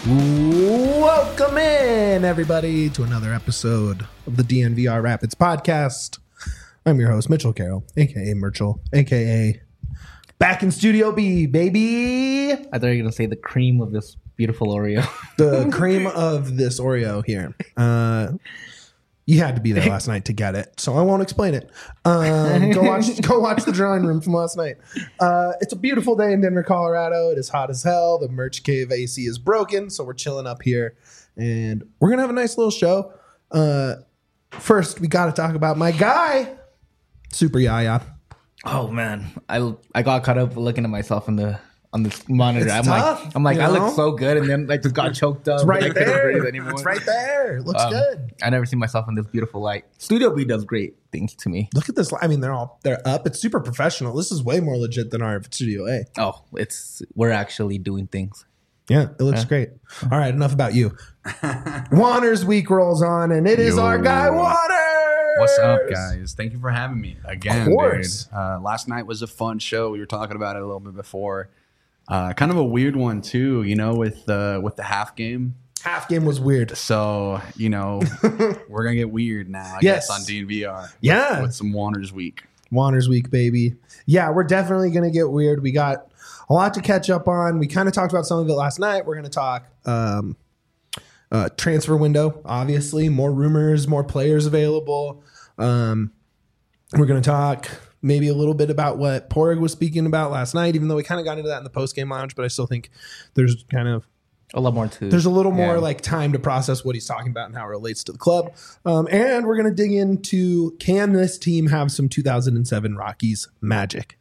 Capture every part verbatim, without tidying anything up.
Welcome in, everybody, to another episode of the D N V R Rapids podcast. I'm your host, Mitchell Carroll, a k a. Merchel, a k a. Back in Studio B, baby. I thought you were going to say the cream of this beautiful Oreo. The cream of this Oreo here. Uh, you had to be there last night to get it, so I won't explain it. Um, go watch go watch the drawing room from last night. Uh, it's a beautiful day in Denver, Colorado. It is hot as hell. The Merch Cave A C is broken, so we're chilling up here. And we're going to have a nice little show. Uh, first, we got to talk about my guy, Super Yaya. Oh man, I I got caught up looking at myself in the on this monitor. It's I'm tough, like I'm like you I know? look so good, and then like just got choked up. It's right I couldn't there. breathe anymore. It's right there. Looks Um, good. I never seen myself in this beautiful light. Studio B does great things to me. Look at this. I mean, they're all they're up. It's super professional. This is way more legit than our Studio A. Oh, it's we're actually doing things. Yeah, it looks Yeah. great. All right, enough about you. Waters week rolls on, and it is Yo. our guy Waters. What's up, guys? Thank you for having me again, Of course. dude. Uh, last night was a fun show. We were talking about it a little bit before. Uh, kind of a weird one too, you know, with the with the half game. Half game was weird. So you know, we're gonna get weird now. I Yes. guess on D N V R. With, Yeah. with some Waters week. Waters week, baby. Yeah, we're definitely gonna get weird. We got a lot to catch up on. We kind of talked about some of it last night. We're gonna talk um, uh, transfer window, obviously, more rumors, more players available. Um, we're gonna talk maybe a little bit about what Porig was speaking about last night, even though we kind of got into that in the post game lounge. But I still think there's kind of A lot more to. there's a little more Yeah. like time to process what he's talking about and how it relates to the club. Um, and we're going to dig into, can this team have some two thousand seven Rockies magic?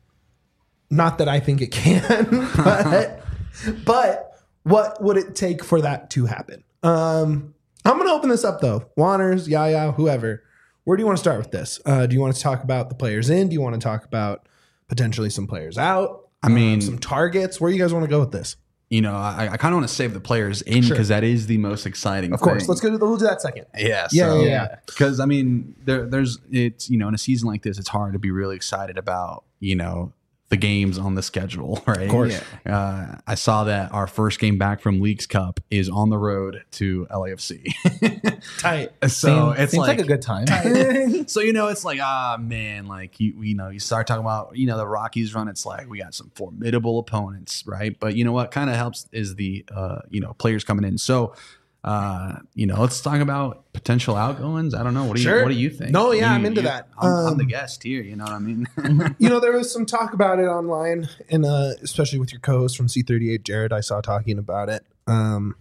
Not that I think it can, but, but what would it take for that to happen? Um, I'm going to open this up though. Waters, Yaya, whoever. Where do you want to start with this? Uh, do you want to talk about the players in? Do you want to talk about potentially some players out? I mean- Um, some targets. Where do you guys want to go with this? You know, I, I kind of want to save the players in Sure. because that is the most exciting. Of course. thing. Let's go to the, we'll do that second. Yeah, Yeah, so, yeah, yeah. Because I mean, there, there's it's you know, in a season like this, it's hard to be really excited about you know the games on the schedule, right? Of course. Uh, I saw that our first game back from Leagues Cup is on the road to L A F C. Tight. so Seems- it's seems like, like a good time. so you know, it's like ah man, like you you know, you start talking about you know the Rockies run. It's like we got some formidable opponents, right? But you know what kind of helps is the uh, you know players coming in. So. Uh, you know, let's talk about potential outgoings. I don't know. What do you Sure. What do you think? No, yeah, You- I'm into you- that. I'm, I'm the Um, guest here. You know what I mean? You know, there was some talk about it online, and uh, especially with your co-host from C thirty-eight, Jared, I saw talking about it. Um,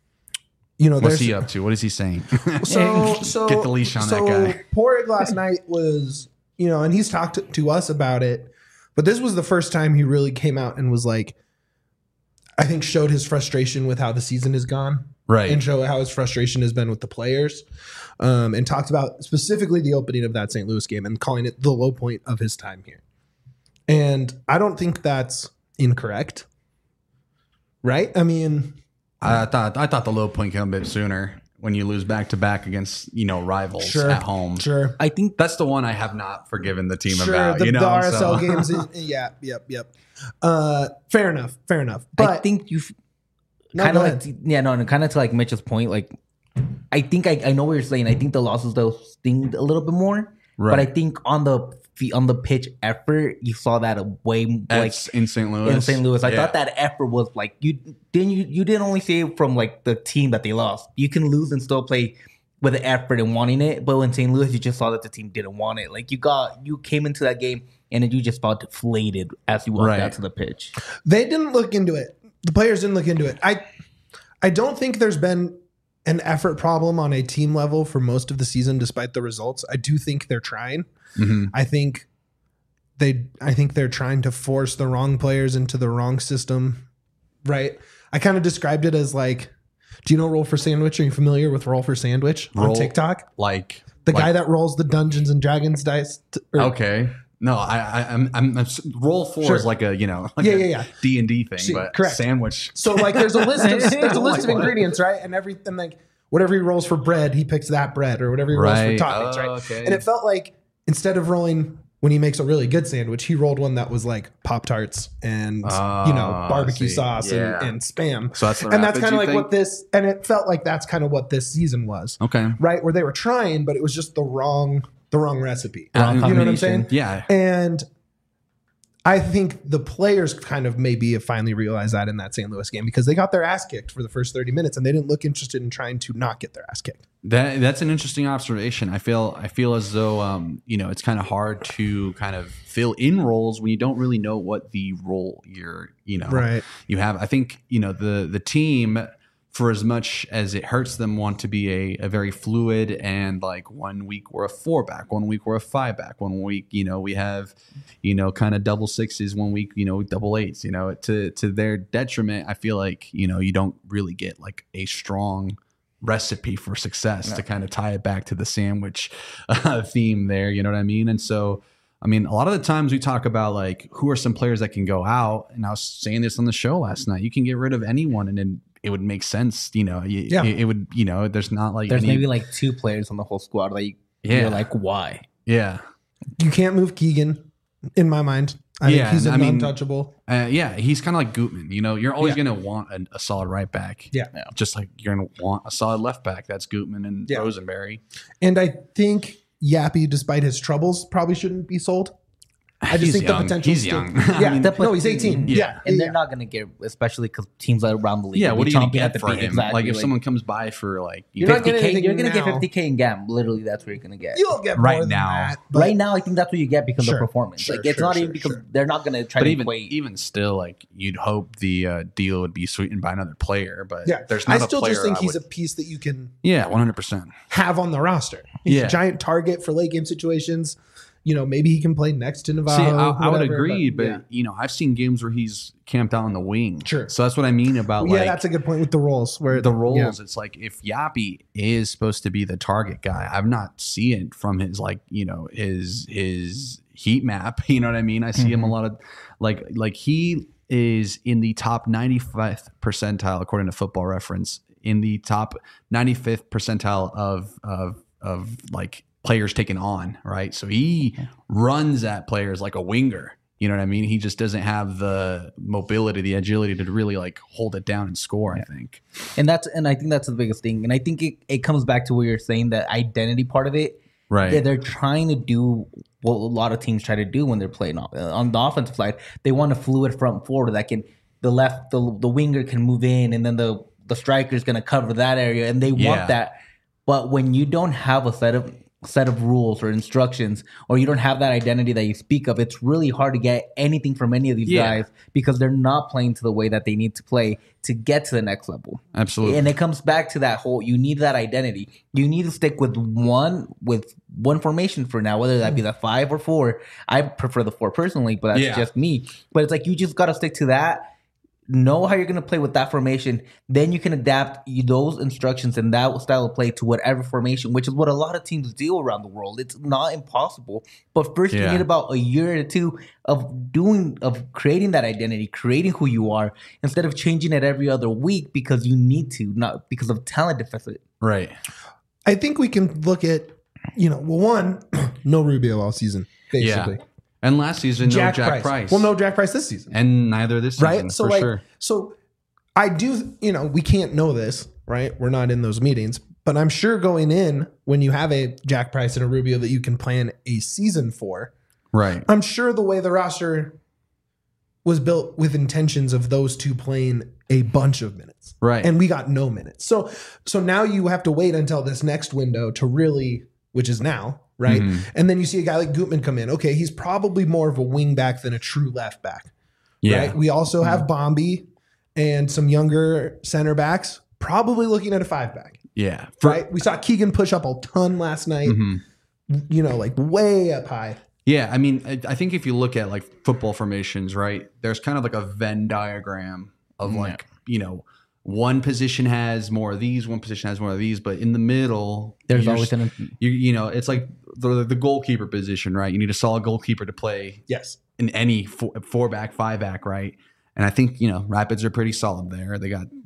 you know, What's there's he up to? What is he saying? so so Get the leash on so that guy. Porig last night was, you know, and he's talked to, to us about it, but this was the first time he really came out and was like, I think showed his frustration with how the season has gone. Right. And show how his frustration has been with the players, um, and talked about specifically the opening of that Saint Louis game and calling it the low point of his time here. And I don't think that's incorrect, right? I mean, I thought I thought the low point came a bit sooner when you lose back to back against you know rivals sure, at home. sure, I think That's the one I have not forgiven the team sure. about. The, you know, the R S L so. games, is, yeah, yep, yep. Uh, fair enough, fair enough. But I think you've No, kind go of ahead. like yeah no, no kind of to like Mitch's point. Like I think I, I know what you're saying. I think the losses though sting a little bit more. Right. But I think on the fe- on the pitch effort, you saw that a way like That's in Saint Louis. in Saint Louis. I Yeah. thought that effort was like you didn't you you didn't only say it from like the team that they lost. You can lose and still play with the effort and wanting it. But in Saint Louis, you just saw that the team didn't want it. Like you got you came into that game and then you just felt deflated as you walked Right. out to the pitch. they didn't look into it. The players didn't look into it. I, I don't think there's been an effort problem on a team level for most of the season, despite the results. I do think they're trying. Mhm. I think they I think they're trying to force the wrong players into the wrong system. Right. I kind of described it as like, do you know Roll for Sandwich? Are you familiar with Roll for Sandwich on Roll- TikTok? Like The like, guy that rolls the Dungeons and Dragons dice. t- or- Okay. No, I, I I'm, I'm, I'm roll four Sure. is like a you know like Yeah, a yeah, yeah. D and D thing, See, but correct. sandwich. So like, there's a list of there's a list of Like what? ingredients, right? And everything like whatever he rolls for bread, he picks that bread, or whatever he rolls Right. for toppings, Oh, right? okay. And it felt like instead of rolling when he makes a really good sandwich, he rolled one that was like Pop-Tarts and, Oh, you know, I barbecue see. sauce Yeah. and, and Spam. So that's the and that's Rapids, kind you of like think? what this, and it felt like that's kind of what this season was, Okay. right? Where they were trying, but it was just the wrong, the wrong recipe. Wrong You know what I'm combination. saying? Yeah. And I think the players kind of maybe have finally realized that in that Saint Louis game because they got their ass kicked for the first thirty minutes and they didn't look interested in trying to not get their ass kicked. That that's an interesting observation. I feel I feel as though um, you know, it's kind of hard to kind of fill in roles when you don't really know what the role you're, you know, Right. you have. I think, you know, the the team, for as much as it hurts them, want to be a, a very fluid and like one week we're a four back, one week we're a five back, one week, you know, we have, you know, kind of double sixes, one week, you know, double eights, you know, to to their detriment. I feel like, you know, you don't really get like a strong recipe for success No. to kind of tie it back to the sandwich uh, theme there. You know what I mean? And so, I mean, a lot of the times we talk about like who are some players that can go out. And I was saying this on the show last night. You can get rid of anyone, and then it would make sense. You know, you, Yeah. it, it would. You know, there's not like There's any, maybe like two players on the whole squad. Like, Yeah. you're like, why? yeah, You can't move Keegan, in my mind. I Yeah, think he's and an I mean- untouchable. uh, yeah. He's kind of like Gutman. You know, you're always Yeah. going to want a, a solid right back. Yeah. Yeah. Just like you're going to want a solid left back. That's Gutman and Yeah. Rosenberry. And I think Yappy, despite his troubles, probably shouldn't be sold. I just He's think young. the potential. He's still- young. Yeah, I mean, no, he's eighteen. Yeah. Yeah, And yeah. they're not going to get, especially because teams that are around the league. Yeah, will what are be you going to chomping at get the for bit. him? Exactly. Like if someone comes by for like you You're know, not getting fifty K, anything you're going to get now. fifty K in GAM. Literally, that's what you're going to get. You'll get Right more than now. that, but- Right now, I think that's what you get because Sure, of performance. sure, like, it's sure, not sure, even because sure. they're not going to try but to even equate. even still, like you'd hope the uh, deal would be sweetened by another player. But Yeah, there's not I a still player just think I he's would- a piece that you can yeah, one hundred percent. have on the roster. He's Yeah. a giant target for late game situations. You know, maybe he can play next to Navajo. See, I, I would whatever, agree, but, yeah. you know, I've seen games where he's camped out on the wing. Sure. So that's what I mean about yeah, like that's a good point with the roles. Where the roles. yeah. It's like if Yappy is supposed to be the target guy, I've not seen it from his like you know his his heat map. You know what I mean? I see him a lot of like like he is in the top ninety-fifth percentile according to Football Reference, in the top ninety-fifth percentile of of of like players taken on, right? So he runs at players like a winger. You know what I mean? He just doesn't have the mobility, the agility to really like hold it down and score, I think. And that's and I think that's the biggest thing. And I think it, it comes back to where you're saying that identity part of it. Right. Yeah, they're trying to do what a lot of teams try to do when they're playing off, on the offensive side. They want a fluid front forward that can the left the the winger can move in, and then the the striker is going to cover that area, and they Yeah. want that. But when you don't have a set of set of rules or instructions, or you don't have that identity that you speak of, it's really hard to get anything from any of these Yeah. guys because they're not playing to the way that they need to play to get to the next level. Absolutely. And it comes back to that whole, you need that identity. You need to stick with one with one formation for now, whether that be the five or four. I prefer the four personally, but that's Yeah. just me. But it's like you just got to stick to that. Know how you're going to play with that formation. Then you can adapt you- those instructions and that style of play to whatever formation, which is what a lot of teams do around the world. It's not impossible. But first, you Yeah. need about a year or two of doing, of creating that identity, creating who you are, instead of changing it every other week because you need to, not because of talent deficit. Right. I think we can look at, you know, well, one, no Rubio all season, basically. Yeah. And last season, no Jack Price. Well, no Jack Price this season. And neither this season, Right? So, for like, sure. so I do, you know, we can't know this, right? We're not in those meetings, but I'm sure going in when you have a Jack Price and a Rubio that you can plan a season for, Right. I'm sure the way the roster was built with intentions of those two playing a bunch of minutes. Right. And we got no minutes. So so now you have to wait until this next window to really, which is now, right? Mhm. And then you see a guy like Gutman come in. Okay, he's probably more of a wing back than a true left back. Yeah. Right? We also have Bombi and some younger center backs, probably looking at a five back. Yeah. For- Right? We saw Keegan push up a ton last night, Mhm. you know, like way up high. Yeah, I mean, I, I think if you look at like football formations, right, there's kind of like a Venn diagram of like, you know, one position has more of these, one position has more of these, but in the middle, There's you're always s- an you, you know, it's like the, the goalkeeper position, right? You need a solid goalkeeper to play Yes. in any four, four back, five back, right? And I think, you know, Rapids are pretty solid there. They got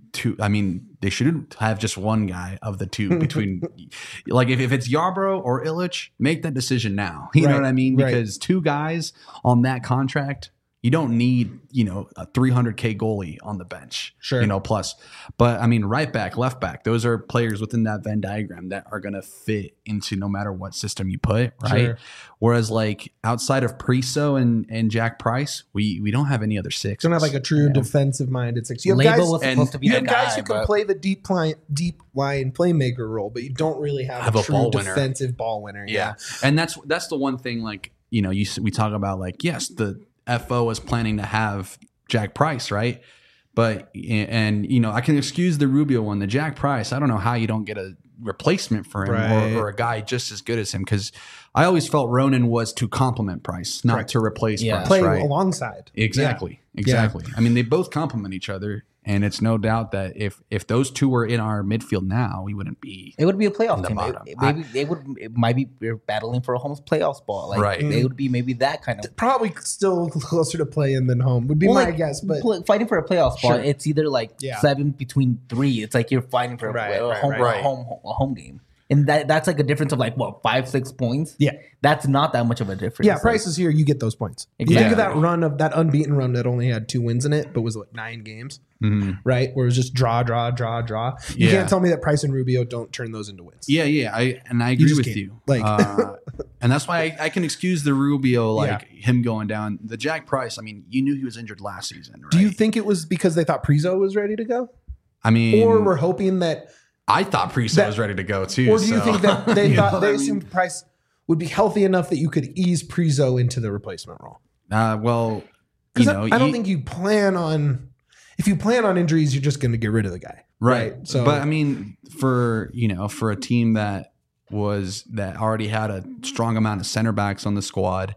two. I mean, they shouldn't have just one guy of the two between. Like if, if it's Yarbrough or Illich, make that decision now. You Right, know what I mean? right. Because two guys on that contract, you don't need, you know, a three hundred K goalie on the bench. Sure. You know, plus. But I mean, right back, left back, those are players within that Venn diagram that are going to fit into no matter what system you put, right? Sure. Whereas like outside of Priso and, and Jack Price, we we don't have any other six. Don't have like a true defensive minded six. You have Label guys, was and supposed to be you the have guy, guys who can but play the deep line, deep line playmaker role, but you don't really have, Have a a true ball winner. defensive ball winner. Yeah. And that's that's the one thing, like, you know, you s- we talk about like, yes, the F O is planning to have Jack Price, right? But and you know, I can excuse the Rubio one, the Jack Price. I don't know how you don't get a replacement for him Right. or, or a guy just as good as him, because I always felt Ronan was to complement Price, not Correct. to replace Yeah. Price. Play right? alongside. Exactly. Exactly. I mean, they both complement each other, and it's no doubt that if if those two were in our midfield now, we wouldn't be it would be a playoff In the team. It- bottom. it- maybe they would. It might be we're battling for a home playoff spot. Like Right. they would be maybe that kind of. Probably still closer to play in than home would be Well, my like, guess. But pl- fighting for a playoff spot, Sure. it's either like Yeah. seven between three. It's like you're fighting for a, Right, a right, home, right. A home a home game, and that that's like a difference of like what five six points. yeah, That's not that much of a difference. yeah, Like, Price is here. You get those points. You think Exactly. of that run of that unbeaten run that only had two wins in it, but was like nine games, Mhm. right? Where it was just draw, draw, draw, draw. You Yeah. can't tell me that Price and Rubio don't turn those into wins. Yeah, yeah, I and I agree just with can't. you. Like- uh, and that's why I, I can excuse the Rubio, like him going down. The Jack Price, I mean, you knew he was injured last season, right? Do you think it was because they thought Prizo was ready to go, I mean, or were hoping that, I thought Priest that- was ready to go too. or do you so- think that they You know thought what they I mean? assumed Price would be healthy enough that you could ease Prizo into the replacement role? Uh, well, you Because know, I, I don't you- think you plan on. If you plan on injuries, you're just going to get rid of the guy, right. So, but I mean, for you know, for a team that was that already had a strong amount of center backs on the squad,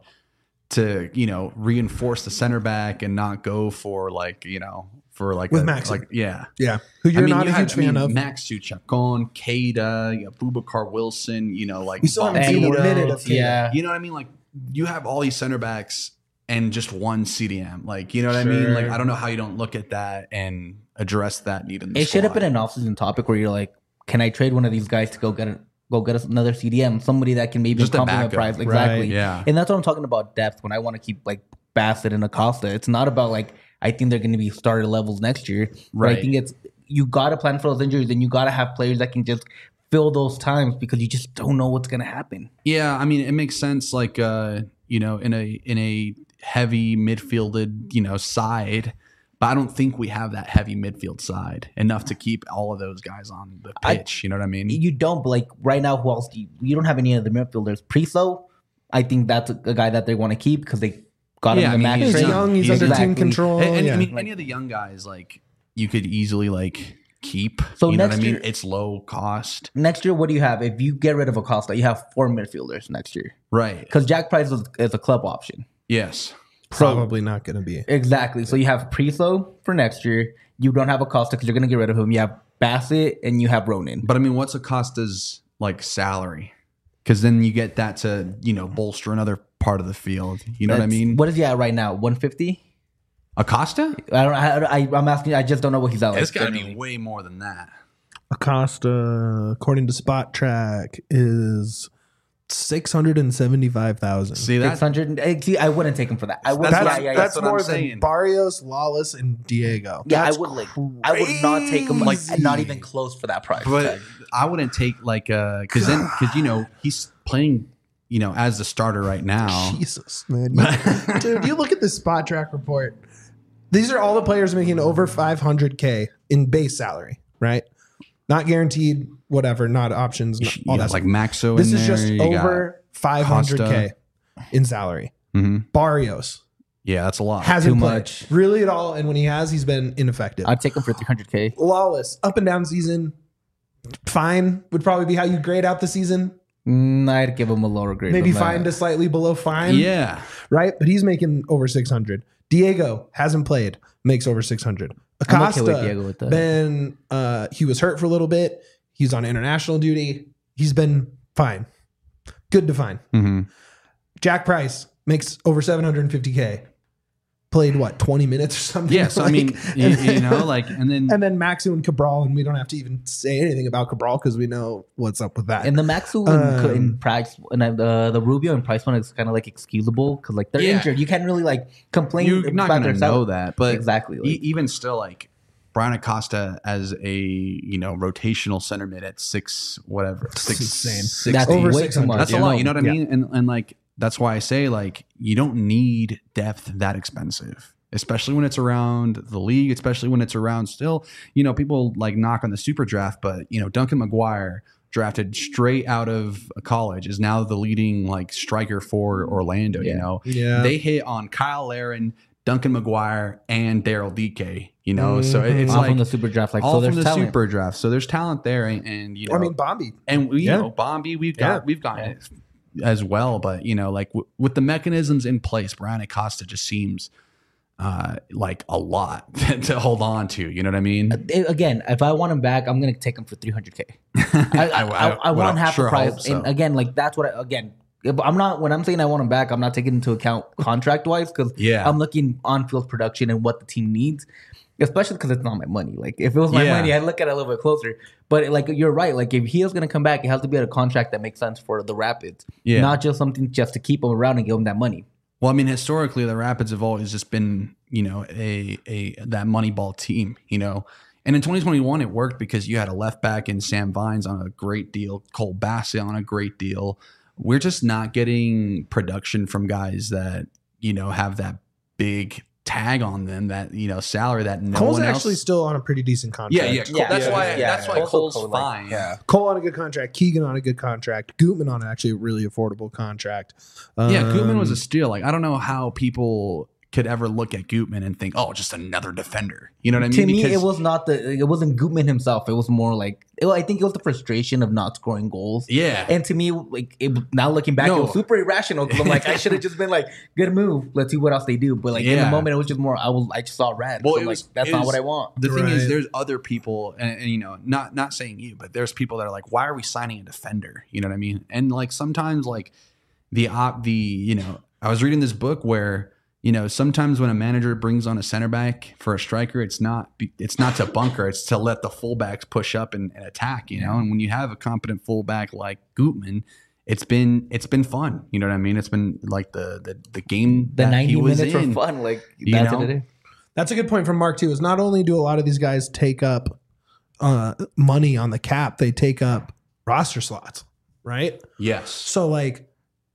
to you know reinforce the center back and not go for like you know for like With a, Maxi. like yeah. yeah, who you're I mean, not you a had, huge I mean, fan of. Max Suchakon, Keita, you know, Bubakar Wilson, you know, like We still haven't seen a Bonita. minute of Keita. Yeah. You know what I mean? Like you have all these center backs and just one C D M. Like, you know what I mean? Sure. Like, I don't know how you don't look at that and address that need in the It should have squad. been an offseason topic where you're like, can I trade one of these guys to go get a, go get us another C D M, somebody that can maybe Just a complement backup. Price exactly. Right. Yeah. And that's what I'm talking about depth when I want to keep like Bassett and Acosta. It's not about like I think they're going to be starter levels next year. But Right. I think it's you got to plan for those injuries and you got to have players that can just fill those times because you just don't know what's going to happen. Yeah, I mean, it makes sense. Like, uh, you know, in a in a heavy midfielded, you know, side, but I don't think we have that heavy midfield side enough to keep all of those guys on the I- pitch. you know what I mean? You don't, but like right now, who else do you, you don't have any other midfielders. Priso, I think that's a, a guy that they want to keep because they got Yeah, him the I mean, max he's He's trade. young. He's, He's under team exactly- control. And, and, yeah. I mean, Like- any of the young guys, like you could easily like keep. So you know what I next mean? year- It's low cost, Next year, what do you have? If you get rid of Acosta, you have four midfielders next year right? because Jack Price is, is a club option. Yes, Probably not going to be. Exactly. So you have Priso for next year. You don't have Acosta because you're going to get rid of him. You have Bassett and you have Ronan. but I mean, what's Acosta's like salary? Because then you get that to you know bolster another part of the field. You know what I That's- mean? What is he at right now? one fifty? Acosta? I don't. I, I, I'm asking. I just don't know what he's at. It's Like, got to be generally. way more than that. Acosta, according to Spot Track, is six hundred and seventy-five thousand. See that? six hundred. eh, See, I wouldn't take him for that. I would. That's That's, yeah, what- yeah, yeah. that's what I'm more than saying. Barrios, Lawless, and Diego. Yeah, That's I would like. I would not take him like crazy. not even close for that price. But tag. I wouldn't take like uh because then because you know he's playing you know as the starter right now. Jesus, man. You- dude, you look at this Spot Track report. These are all the players making over five hundred K in base salary, right? Not guaranteed, whatever, not options, not, all You that got like stuff. Maxo. This in is there, just you got- over five hundred K Costa. in salary. Mhm. Barrios Yeah, that's a lot. hasn't Too played much. really at all, and when he has, he's been ineffective. I'd take him for three hundred K. Lawless, up and down season, fine would probably be how you grade out the season. Mm, I'd give him a lower grade. Maybe than that. fine to slightly below fine. yeah, Right? But he's making over six hundred. Diego hasn't played, makes over six hundred. I'm okay Acosta, with Diego with that. been, uh, he was hurt for a little bit. He's on international duty. He's been fine. Good to fine. hmm Jack Price makes over seven hundred fifty K. played what twenty minutes or something. Yeah, so like, I mean, you, you know, like, and then and then Maxu and Cabral, and we don't have to even say anything about Cabral because we know what's up with that. And the Maxu Um, and, and Price and uh, the the Rubio and Price one is kind of like excusable because like they're Yeah. injured. You can't really like complain. you're not about going to their know salary. that, but Exactly, like- e- even still, like Brian Acosta as a you know rotational center mid at six whatever six insane. six That's Over way six too hundred. much. That's a you lot, know? you know what I Yeah. mean? And and like that's why I say like you don't need depth that expensive, especially when it's around the league, especially when it's around still, you know, people like knock on the super draft, but you know, Duncan McGuire drafted straight out of college is now the leading like striker for Orlando, you Yeah. know. Yeah. They hit on Kyle Laren, Duncan McGuire, and Daryl D K, you know. So it- it's all like from the super draft. Like all so, from there's the talent. super draft. So there's talent there, and, and you know, I mean, Bombi. and we, Yeah. you know, Bombi, we've got, Yeah. we've got it as well. But you know, like w- with the mechanisms in place, Brian Acosta just seems uh, like a lot to hold on to. You know what I mean? Eh, Again, if I want him back, I'm gonna take him for three hundred k. I, I, I, I well, want half sure the price. hope so. And again, like that's what I, again. if I'm not when I'm saying I want him back. I'm not taking into account contract wise because Yeah. I'm looking on field production and what the team needs, especially because it's not my money. Like if it was my Yeah. money, I'd look at it a little bit closer. But like you're right. Like if he is gonna come back, it has to be at a contract that makes sense for the Rapids, Yeah. not just something just to keep him around and give him that money. Well, I mean, historically, the Rapids have always just been, you know, a a that Moneyball team, you know. And in twenty twenty-one, it worked because you had a left back in Sam Vines on a great deal, Cole Bassett on a great deal. We're just not getting production from guys that, you know, have that big tag on them, that, you know, salary that no Cole's one else. actually still on a pretty decent contract. yeah, yeah, Cole, Yeah, that's yeah, why. yeah, that's yeah. why Also Cole's Cole, like, fine. yeah. Cole on a good contract. Keegan on a good contract. Gutman on actually a really affordable contract. Yeah, Gutman was Um, a steal. Like, I don't know how people could ever look at Gutman and think, oh, just another defender. You know what I mean? To me, Because- it was not the. It wasn't Gutman himself. It was more like. It, I think it was the frustration of not scoring goals. Yeah. And to me, like it, now looking back, No. it was super irrational because I'm like, I should have just been like, good move. Let's see what else they do. But like in Yeah. the moment, it was just more. I was. I just saw red. Well, So it I'm was- like, that's it not was- what I want. The thing is, Right. there's other people, and, and you know, not not saying you, but there's people that are like, why are we signing a defender? You know what I mean? And like sometimes, like the op, the you know, I was reading this book where you know sometimes when a manager brings on a center back for a striker, it's not be- it's not to bunker, it's to let the fullbacks push up and, and attack. You know, and when you have a competent fullback like Gutman, it's been it's been fun. You know what I mean? It's been like the the the game The that ninety he was minutes in. were fun. Like You that's know? what it is. That's a good point from Mark too. Is not only do a lot of these guys take up uh, money on the cap, they take up roster slots, right? Yes. So like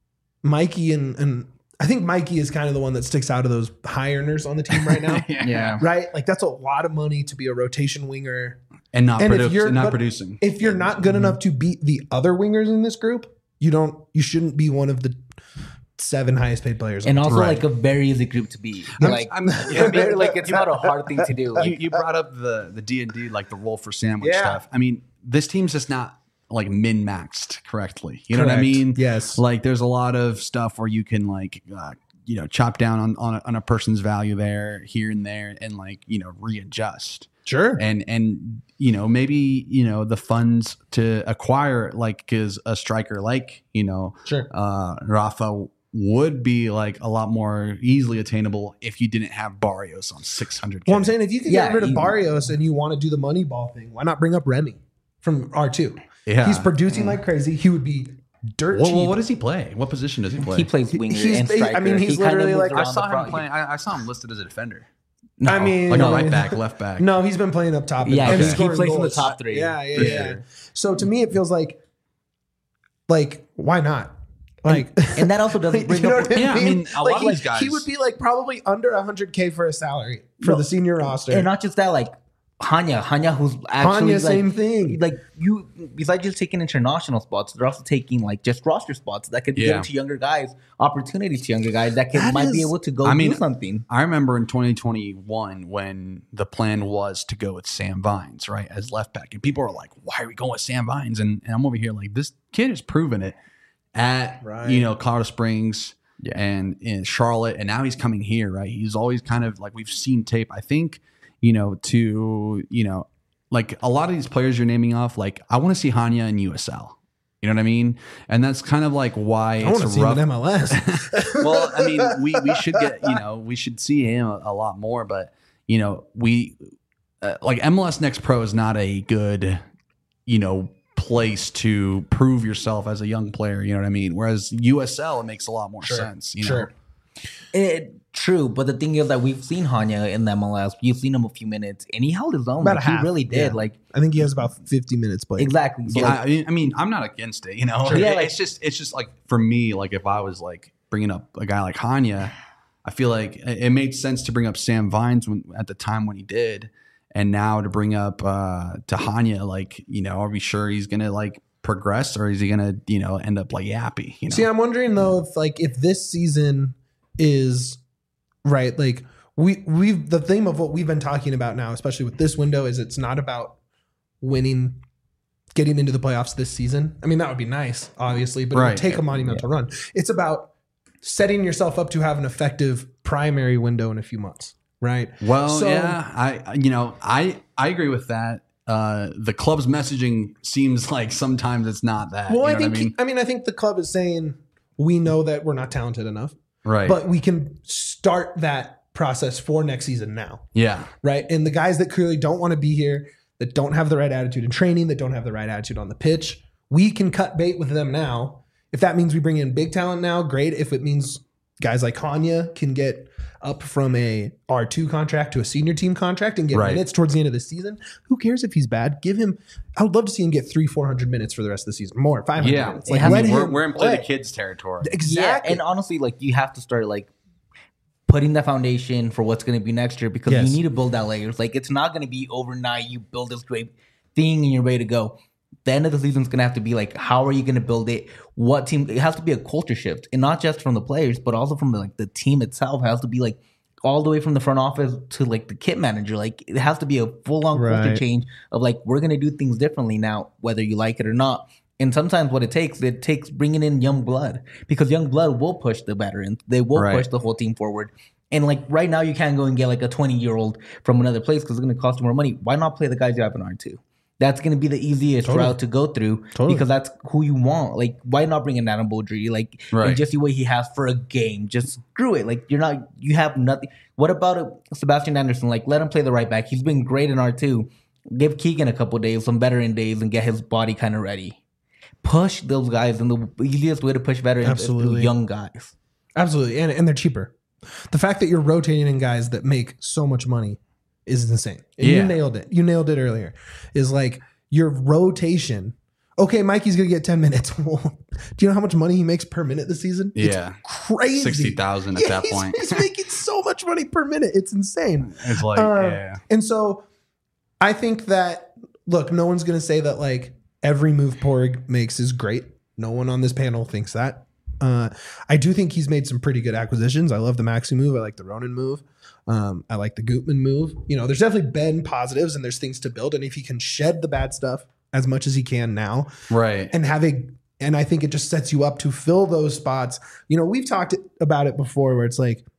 Mikey and and I think Mikey is kind of the one that sticks out of those high earners on the team right now. Yeah. Right? Like that's a lot of money to be a rotation winger. And not And if produ- you're- not but producing. If you're not good enough to beat the other wingers in this group, you don't you shouldn't be one of the seven highest paid players on And the team. also Right. like a very easy group to be. I'm- Like I'm- it's very, like it's not a hard thing to do. you, Like, you brought up the the D and D, like the roll for sandwich Yeah. stuff. I mean, this team's just not like min maxed correctly. You know what I Correct. mean? Yes. Like there's a lot of stuff where you can like uh, you know chop down on on a, on a person's value there, here and there, and like you know readjust. Sure. And and you know maybe you know the funds to acquire like because a striker like you know Sure. uh, Rafa would be like a lot more easily attainable if you didn't have Barrios on six hundred. Well, I'm saying if you can Yeah, get rid of he- Barrios and you want to do the money ball thing, why not bring up Remy from R two? Yeah. He's producing like crazy. He would be dirt Well, cheap. well, what does he play? What position does he play? he plays winger he's- and he- I striker. mean, he's He kinda literally moves like- I around saw the him front. playing. I, I saw him listed as a defender, No, I mean, like No. a right back, left back. No, he's been playing up top. Yeah, and he- he scoring plays in the goals. top three, Yeah, yeah, for yeah. sure. So to me, it feels like, like, why not? Like, and that also doesn't bring you know up. what I Yeah, I mean? mean, a like lot of he, these guys- he would be like probably under one hundred K for a salary for No. the senior roster. And not just that, like Hanya, Hanya, who's actually Hanya, like, same thing. Like you, besides just taking international spots, they're also taking like just roster spots that could be Yeah. given to younger guys, opportunities to younger guys that can That might be is- able to go I mean, do something. I remember in twenty twenty-one when the plan was to go with Sam Vines, right, as left back. And people are like, why are we going with Sam Vines? And, and I'm over here like, this kid has proven it at, Right. you know, Colorado Springs and in Charlotte. And now he's coming here, right? He's always kind of like, we've seen tape, I think, you know, to, you know, like a lot of these players you're naming off, like I want to see Hanya in U S L. You know what I mean? And that's kind of like why I it's want to see rough. him in M L S. Well, I mean, we we should get you know we should see him a, a lot more, but you know we uh, like M L S Next Pro is not a good you know place to prove yourself as a young player. You know what I mean? Whereas U S L, it makes a lot more Sure, sense. You sure. know? It, true, but the thing is that we've seen Hanya in the M L S. You've seen him a few minutes, and he held his own. About Like, a half, he really did. yeah. Like I think he has about fifty minutes played. exactly. So Yeah, like, I mean, I mean, I'm not against it. You know, Sure. Yeah, It- like- it's just it's just like for me, like if I was like bringing up a guy like Hanya, I feel like it it made sense to bring up Sam Vines when at the time when he did, and now to bring up uh to Hanya, like you know, are we sure he's gonna like progress or is he gonna you know end up like Yappy? You know, See, I'm wondering though if like if this season is right, like we we've the theme of what we've been talking about now, especially with this window, is it's not about winning, getting into the playoffs this season. I mean, that would be nice, obviously, but it Right. would take a monumental run. It's about setting yourself up to have an effective primary window in a few months, right? Well, So- yeah, I you know I I agree with that. Uh, the club's messaging seems like sometimes it's not that. Well, you I know think what I mean? I mean I think the club is saying we know that we're not talented enough, Right. but we can start that process for next season now. yeah. Right. And the guys that clearly don't want to be here, that don't have the right attitude in training, that don't have the right attitude on the pitch, we can cut bait with them now. If that means we bring in big talent now, great. If it means guys like Hanya can get up from a R two contract to a senior team contract and get Right. minutes towards the end of the season, who cares if he's bad? Give him, I would love to see him get three, four hundred minutes for the rest of the season, more, five hundred Yeah. minutes. It Like, has- let I mean, We're, him we're in play the play. kids territory. Exactly. yeah, and honestly, like you have to start like putting the foundation for what's going to be next year because Yes. you need to build that layers. Like it's not going to be overnight. You build this great thing and you're ready to go. The end of the season is going to have to be like, how are you going to build it? What team? It has to be a culture shift, and not just from the players, but also from the, like the team itself. It has to be like all the way from the front office to like the kit manager. Like it has to be a full on culture Right. change of like we're going to do things differently now, whether you like it or not. And sometimes what it takes, it takes bringing in young blood because young blood will push the veterans. They will Right. push the whole team forward. And like right now, you can't go and get like a twenty year old from another place because it's going to cost you more money. Why not play the guys you have in R two? That's going to be the easiest Totally. route to go through Totally. because that's who you want. Like, why not bring in Adam Beaudry? Like, Right. and just see what he has for a game. Just screw it. Like, you're not, you have nothing. What about uh, Sebastian Anderson? Like, let him play the right back. He's been great in R two. Give Keegan a couple days, some veteran days, and get his body kind of ready. Push those guys, and the easiest way to push veterans is through Absolutely. young guys. Absolutely. And, and they're cheaper. The fact that you're rotating in guys that make so much money is insane. And Yeah. you nailed it. You nailed it earlier. Is like your rotation. Okay, Mikey's going to get ten minutes. Well, do you know how much money he makes per minute this season? Yeah. It's crazy. sixty thousand at Yeah, that he's- point. He's making so much money per minute. It's insane. It's like, Um, yeah. And so I think that, look, no one's going to say that like every move Porg makes is great. No one on this panel thinks that. Uh, I do think he's made some pretty good acquisitions. I love the Maxi move. I like the Ronan move. Um, I like the Gutman move. You know, there's definitely been positives and there's things to build. And if he can shed the bad stuff as much as he can now Right. and have a, and I think it just sets you up to fill those spots. You know, we've talked about it before where it's like,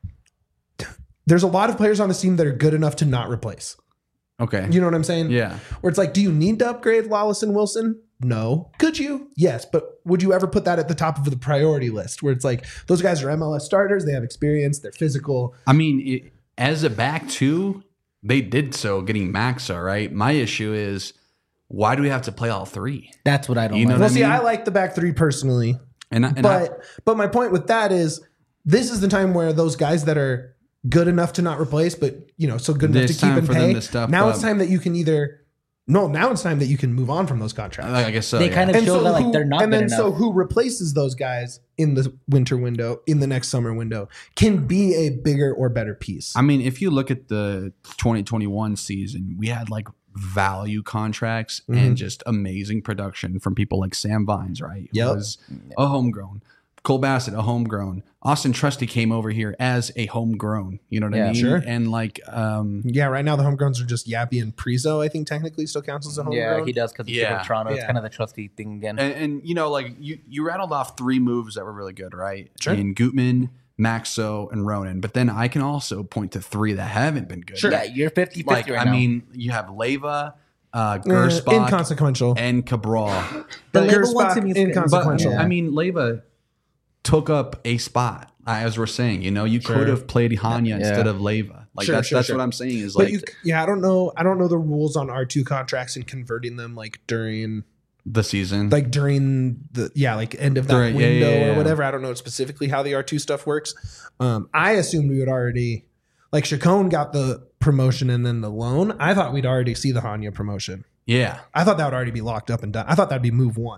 there's a lot of players on this team that are good enough to not replace. Okay. You know what I'm saying? Yeah. Where it's like, do you need to upgrade Lawless and Wilson? No. Could you? Yes. But would you ever put that at the top of the priority list where it's like, those guys are M L S starters, they have experience, they're physical. I mean, it, as a back two, they did so getting Maxa, right? My issue is why do we have to play all three? That's what I don't You know like. what Well, I see, mean? I like the back three personally, And, I- and but I, but my point with that is this is the time where those guys that are good enough to not replace, but you know, so good enough It's to keep time and for them pay. to step Now up. it's time that you can either no, now it's time that you can move on from those contracts. I guess so. They yeah. kind of And show so that like who- they're not and good then enough. so who replaces those guys in the winter window, in the next summer window, can be a bigger or better piece. I mean, if you look at the twenty twenty-one season, we had like value contracts Mhm. and just amazing production from people like Sam Vines, right? Who Yep. was a homegrown. Cole Bassett, a homegrown. Austin Trusty came over here as a homegrown. You know what Yeah, I mean? sure. And like, um, Yeah, right now the homegrowns are just Yappy and Prizo. I think technically still counts as a homegrown. Yeah, he does because he's Yeah. from Toronto. It's Yeah. kind of the trusty thing again. and, and you know, like you, you rattled off three moves that were really good, right? Sure. In Gutman, Maxo, and Ronan. But then I can also point to three that haven't been good. Sure. Yeah, you're fifty fifty Like, right I now. mean, you have Leva, uh, Uh, Gersbach inconsequential. and Cabral. The But label one Gersbach, to me is inconsequential. But Yeah. I mean, Leyva took up a spot, as we're saying. You know, you Sure. could have played Hanya Yeah. instead of Leyva. Like Sure, that's sure, that's sure. what I'm saying. Is But like you, yeah, I don't know. I don't know the rules on R two contracts and converting them like during, the season. like during the yeah, like end of that During- yeah, window yeah, yeah, or yeah. whatever. I don't know specifically how the R two stuff works. Um, I assumed we would already like Chacon got the promotion and then the loan. I thought we'd already see the Hanya promotion. yeah. I thought that would already be locked up and done. I thought that'd be move one.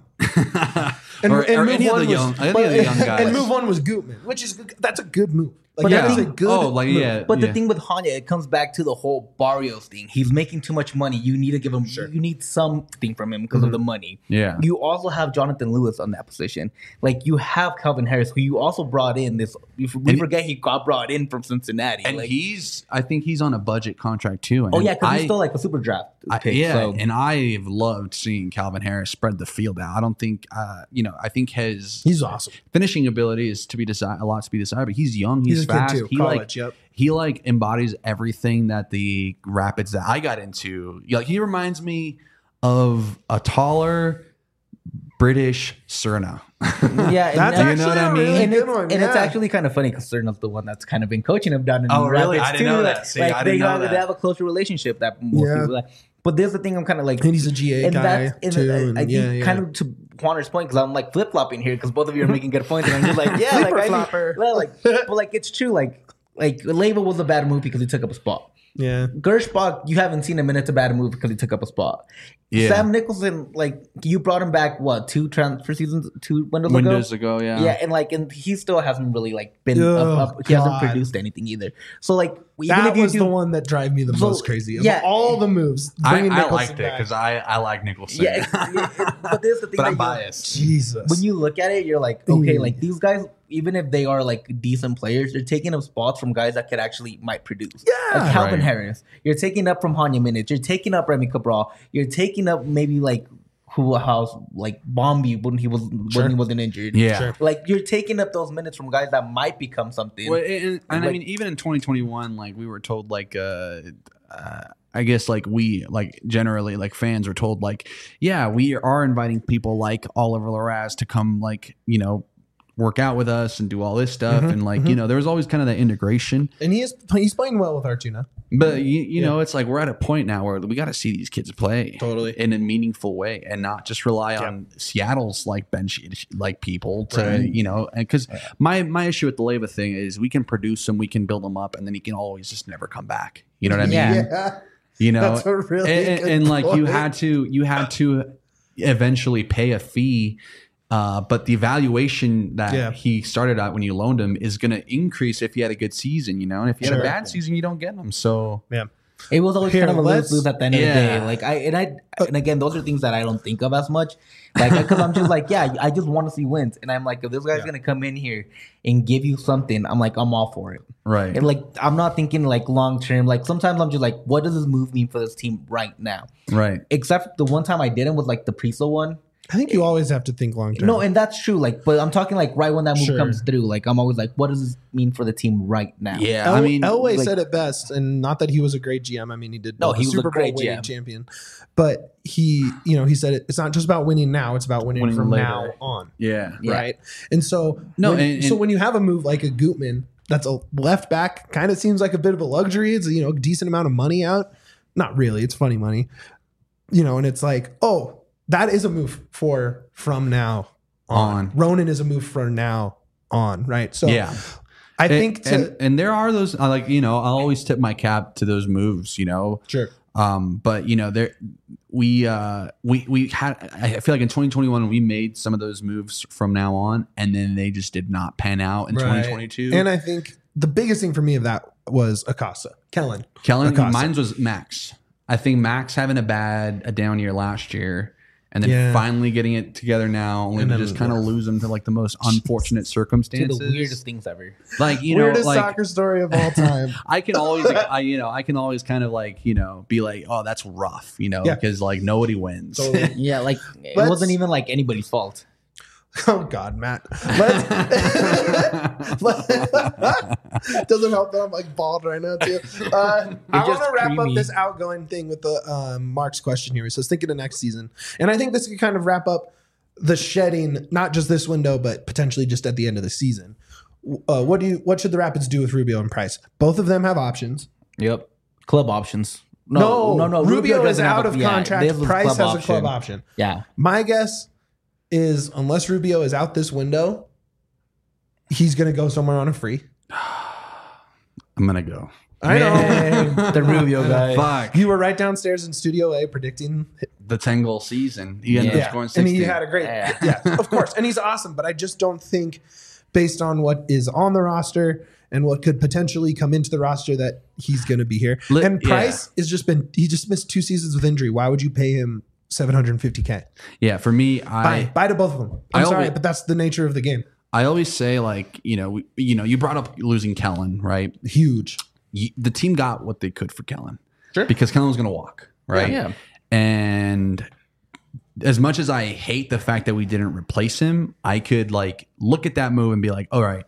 And, or, and or move any of one the was, young, any but- of the young guys. and move one was Gutman, which is that's a good move. Like But that I is a think- good. oh, like move. yeah. But yeah. the thing with Hanya, it comes back to the whole Barrios thing. He's making too much money. You need to give him. Sure. You need something from him because Mm-hmm. of the money. Yeah. You also have Jonathan Lewis on that position. Like you have Calvin Harris, who you also brought in. This we And- forget he got brought in from Cincinnati. and like, he's, I think he's on a budget contract too. And oh yeah, because I- he's still like a super draft I- pick. yeah, so. and I've loved seeing Calvin Harris spread the field out. I don't think, uh, you know, I think his He's awesome. finishing ability is to be desired, a lot to be desired. But he's young, he's, He's a kid fast. too. He College, like, yep. he like embodies everything that the Rapids that I got into. Like he reminds me of a taller British Cerna. Yeah, and, That's and- you know what I actually a mean? really and, good it's, one. and it's yeah. actually kind of funny because Cerna's the one that's kind of been coaching him down in Oh, really? Rapids I didn't too. know Like, that. See, like I they, didn't know have, that. they have a closer relationship that most Yeah. people like. But there's the thing I'm kind of like, And he's a G A and guy that's and too. I, and I think yeah, yeah. kind of to Juaner's point because I'm like flip flopping here because both of you are making good points and I'm just like yeah, like, Flipper I flopper. mean, well, like but like it's true like like Leyva was a bad move because he took up a spot. yeah. Gershbach, you haven't seen him and it's a bad move because he took up a spot. Yeah. Sam Nicholson, like you brought him back what two transfer seasons, two windows, Windows ago. ago, yeah. Yeah, and like, and he still hasn't really like been Oh, up, up. He hasn't God. produced anything either. So like, even That if you was do, the one that drive me the So, most crazy. Of yeah. all the moves, I, bringing I Nicholson liked it back. because I, I like Nicholson. yeah, it- it- but there's the thing. but that I'm you- biased. Jesus. When you look at it, you're like, okay, Mm. like these guys, even if they are like decent players, they're taking up spots from guys that could actually might produce. Yeah. like Calvin Right. Harris. You're taking up from Hanya minutes. You're taking up Remy Cabral. You're taking up maybe like who house like Bombi when he was Sure. when he wasn't injured. Yeah. Sure. Like you're taking up those minutes from guys that might become something. Well, and, and I Like- mean, even in twenty twenty-one, like we were told, like, uh, uh, I guess, like we, like generally, like fans were told, like, yeah, we are inviting people like Oliver Larraz to come, like, you know, work out with us and do all this stuff, Mhm, and like, you know, there was always kind of that integration. and he is he's playing well with R two now. But you, you Yeah. know, it's like we're at a point now where we got to see these kids play Totally. in a meaningful way, and not just rely Yeah. on Seattle's like bench like people to Right. you know. Because my my issue with the Leyva thing is we can produce them, we can build them up, and then he can always just never come back. You know what I mean? Yeah. Yeah. You know, That's a really and, and- good and, like you point. had to you had to eventually pay a fee. Uh, but the evaluation that Yeah. he started at when you loaned him is going to increase if he had a good season, you know. And if he had Sure. a bad season, you don't get him. So Yeah. It was always Here, kind of a let's- lose lose at the end of the Yeah. day. Like I and I and again, those are things that I don't think of as much. Like because I'm just like, yeah, I just want to see wins, and I'm like, if this guy's Yeah. gonna come in here and give you something, I'm like, I'm all for it. right, And like, I'm not thinking like long term. Like sometimes I'm just like, what does this move mean for this team right now? right. Except the one time I didn't was like the Priso one. I think you always have to think long term. No, and that's true. Like, but I'm talking like right when that move Sure. comes through. Like I'm always like, what does this mean for the team right now? Yeah, El- I mean, Elway like- said it best, and not that he was a great G M. I mean, he did No, build he a was a Super Bowl great winning G M. champion, but he, you know, he said it, it's not just about winning now; it's about winning, Winning from later. now on, yeah, Yeah. right? And so, No, when, and- so and- when you have a move like a Gutman, that's a left back, kind of seems like a bit of a luxury. It's a, you know, decent amount of money out. Not really; it's funny money, you know. And it's like, oh, that is a move for from now on. On. Ronan is a move for now on, right? So, yeah. I And- think to and, and there are those uh, like you know I'll always tip my cap to those moves, you know. sure. Um, but you know there we uh we we had I feel like in twenty twenty-one we made some of those moves from now on, and then they just did not pan out in Right. twenty twenty-two. And I think the biggest thing for me of that was Acosta, Kellen. Kellen, Acosta. mine was Max. I think Max having a bad a down year last year, and then Yeah. finally getting it together now, only And to then- just kind of lose him to like the most unfortunate To circumstances. the weirdest things ever. Like you Weirdest know, like soccer story of all time. I can always, I you know, I can always kind of like you know be like, oh, that's rough, you know, Yeah. because like nobody wins. Totally. Yeah, like it Let's- wasn't even like anybody's fault. Oh God, Matt. Let's, doesn't help that I'm like bald right now too. Uh, I want just to wrap creamy. up this outgoing thing with the um, Mark's question here. So thinking of next season, and I think this could kind of wrap up the shedding, not just this window, but potentially just at the end of the season. Uh, what do you? What should the Rapids do with Rubio and Price? Both of them have options. Yep. Club options. No, no, no. Rubio, is doesn't have out a- of yeah, contract. this is Price has club a club option. option. Yeah. My guess is unless Rubio is out this window, he's going to go somewhere on a free. I'm gonna go. I know. Man, the Rubio guy. Fuck. You were right downstairs in Studio A predicting. The ten goal season. He ended Yeah. up scoring And sixty. he had a great, Yeah. yeah, of course. And he's awesome. But I just don't think, based on what is on the roster and what could potentially come into the roster, that he's going to be here. Li- and yeah. Price has just been, he just missed two seasons with injury. Why would you pay him seven hundred fifty K? yeah, for me, I Buy, buy to both of them. I'm I sorry, always- but that's the nature of the game. I always say, like, you know, we, you know, you brought up losing Kellen, right? Huge. You, the team got what they could for Kellen. Sure. Because Kellen was going to walk, right? Yeah. And as much as I hate the fact that we didn't replace him, I could like look at that move and be like, all right,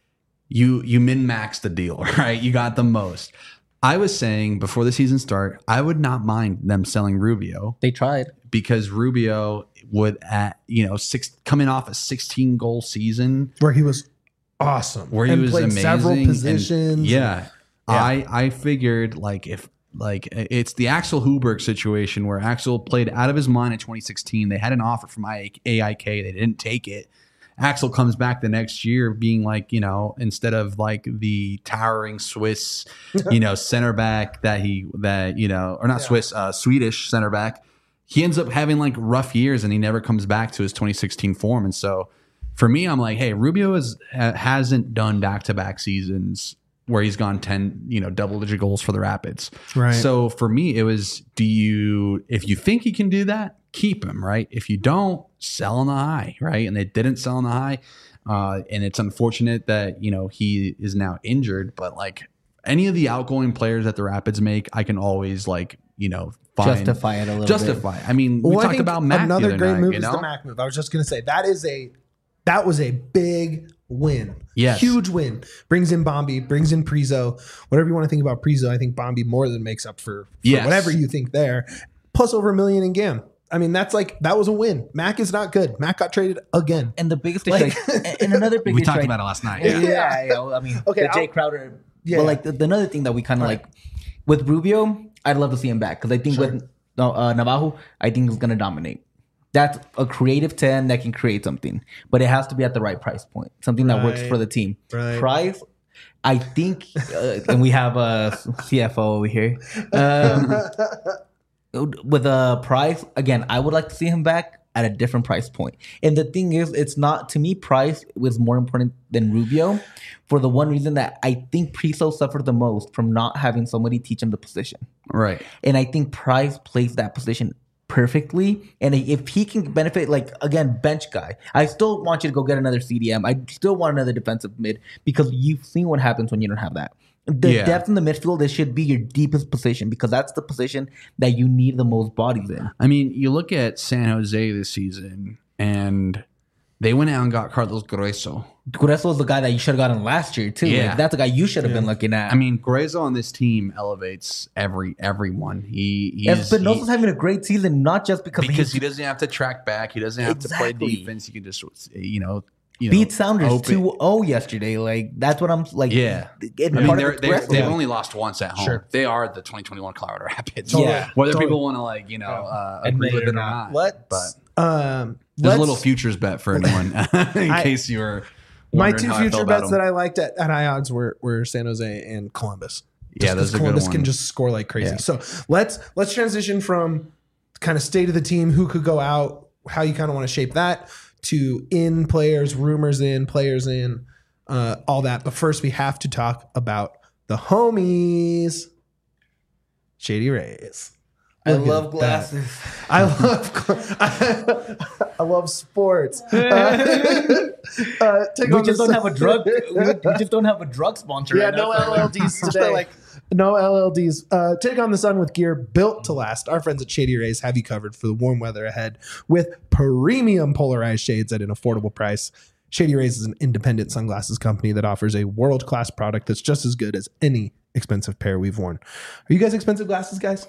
you you min-maxed the deal, right? You got the most. I was saying before the season start, I would not mind them selling Rubio They tried. because Rubio would at you know six coming off a sixteen goal season Where he was awesome. where he and was played amazing. several and- positions. yeah, Yeah. I I figured like if like it's the Axel Huberg situation where Axel played out of his mind in twenty sixteen. They had an offer from A I K, they didn't take it. Axel comes back the next year being like, you know, instead of like the towering Swiss, you know, center back that he that you know, or not Yeah. Swiss, uh, Swedish center back. He ends up having like rough years and he never comes back to his twenty sixteen form. And so for me, I'm like, hey, Rubio is, ha- hasn't done back-to-back seasons where he's gone ten, you know, double-digit goals for the Rapids. Right. So for me, it was, do you, if you think he can do that, keep him, right? If you don't, sell on the high, right? And they didn't sell on the high. Uh, and it's unfortunate that, you know, he is now injured, but like any of the outgoing players that the Rapids make, I can always like, you know, find, Justify it a little justify. I mean, we Well, I talked think about Mac another the other great night, move you is know? the Mac move. I was just going to say that is a that was a big win. Yes. Huge win. Brings in Bombi, brings in Prizo. Whatever you want to think about Prizo, I think Bombi more than makes up for, for Yes. whatever you think there. Plus over a million in Gam. I mean, that's like that was a win. Mac is not good. Mac got traded again. And the biggest issue, Like- like, and another big We issue, talked like- about it last night. Yeah, Yeah. yeah. I mean, Okay, the Jay I'll- Crowder. Yeah. But like the, the another thing that we kind of Right. like with Rubio, I'd love to see him back because I think Sure. with uh, Navajo, I think he's gonna dominate. That's a creative ten that can create something, but it has to be at the right price point, something that works Right. for the team. Right. Price, I think, uh, and we have a C F O over here. Um, with a price, again, I would like to see him back at a different price point. And the thing is, it's not, to me, price was more important than Rubio for the one reason that I think Priso suffered the most from not having somebody teach him the position. Right. And I think Price plays that position perfectly. And if he can benefit, like, again, bench guy, I still want you to go get another C D M. I still want another defensive mid because you've seen what happens when you don't have that. The Yeah. depth in the midfield, this should be your deepest position because that's the position that you need the most bodies in. I mean, you look at San Jose this season, and they went out and got Carlos Grueso. Grueso is the guy that you should have gotten last year too. Yeah. Like, that's the guy you should have been looking at. I mean, Grueso on this team elevates every everyone. He he's, Espinosa's he- having a great season, not just because, because he's he doesn't have to track back. He doesn't have Exactly. to play defense. He can just you know you know beat Sounders open- two oh yesterday. Like that's what I'm like. Yeah. and I mean, part of they're, it's they're, Grueso. they've only lost once at home. Sure. They are the twenty twenty-one Colorado Rapids. Yeah. Whether Totally. people want to like you know uh, Admit agree it with or it or not. not, Let's but um there's let's, a little futures bet for anyone in I- case you were. my wondering two how I future felt about bets them. that I liked at, at high odds were were San Jose and Columbus. Yeah, Just those 'cause are good Columbus can ones. just score like crazy. Yeah. So let's let's transition from kind of state of the team, who could go out, how you kind of want to shape that, to in players, rumors in, players in, uh, all that. But first, we have to talk about the homies, Shady Rays. I Look at love that. glasses. I love I, I love sports. Uh, uh, take We on just the- don't have a drug. We, we just don't have a drug sponsor. Yeah, right no now, so, L L Ds like, today. like, No L L Ds. Uh, take on the sun with gear built to last. Our friends at Shady Rays have you covered for the warm weather ahead with premium polarized shades at an affordable price. Shady Rays is an independent sunglasses company that offers a world-class product that's just as good as any expensive pair we've worn. Are you guys expensive glasses, guys?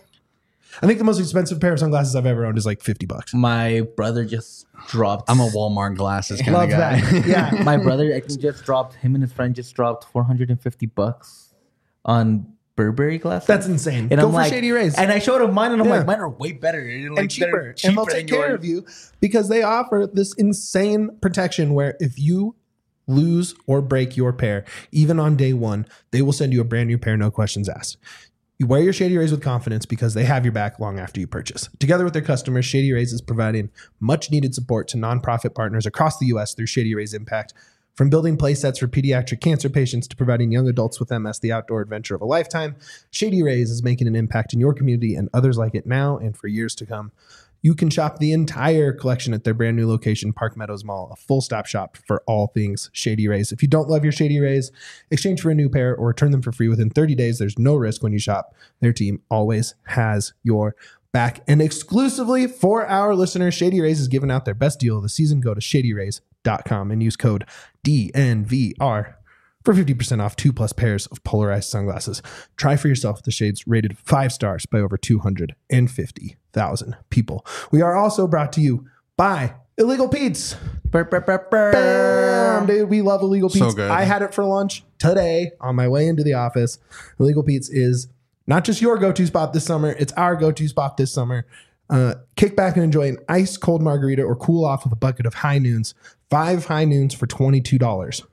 I think the most expensive pair of sunglasses I've ever owned is like fifty bucks. My brother just dropped. I'm a Walmart glasses kind Love of guy. that. Yeah. My brother, I think, just dropped. Him and his friend just dropped four hundred fifty bucks on Burberry glasses. That's insane. And Go I'm for like, Shady Rays. and I showed him mine, and I'm Yeah. like, mine are way better and, like, and cheaper. they're And they'll cheaper take than care yours. of you because they offer this insane protection where if you lose or break your pair, even on day one, they will send you a brand new pair, no questions asked. You wear your Shady Rays with confidence because they have your back long after you purchase. Together with their customers, Shady Rays is providing much needed support to nonprofit partners across the U S through Shady Rays Impact. From building play sets for pediatric cancer patients to providing young adults with M S the outdoor adventure of a lifetime, Shady Rays is making an impact in your community and others like it now and for years to come. You can shop the entire collection at their brand new location, Park Meadows Mall, a full stop shop for all things Shady Rays. If you don't love your Shady Rays, exchange for a new pair or return them for free within thirty days. There's no risk when you shop. Their team always has your back. And exclusively for our listeners, Shady Rays is giving out their best deal of the season. Go to shady rays dot com and use code D N V R for fifty percent off two plus pairs of polarized sunglasses. Try for yourself the shades rated five stars by over two hundred fifty thousand people. We are also brought to you by Illegal Pete's. Burr, burr, burr, burr. Bam, dude, we love Illegal So Pete's. good. I had it for lunch today on my way into the office. Illegal Pete's is not just your go-to spot this summer, it's our go-to spot this summer. Uh, kick back and enjoy an ice cold margarita or cool off with a bucket of High Noons. Five High Noons for twenty-two dollars.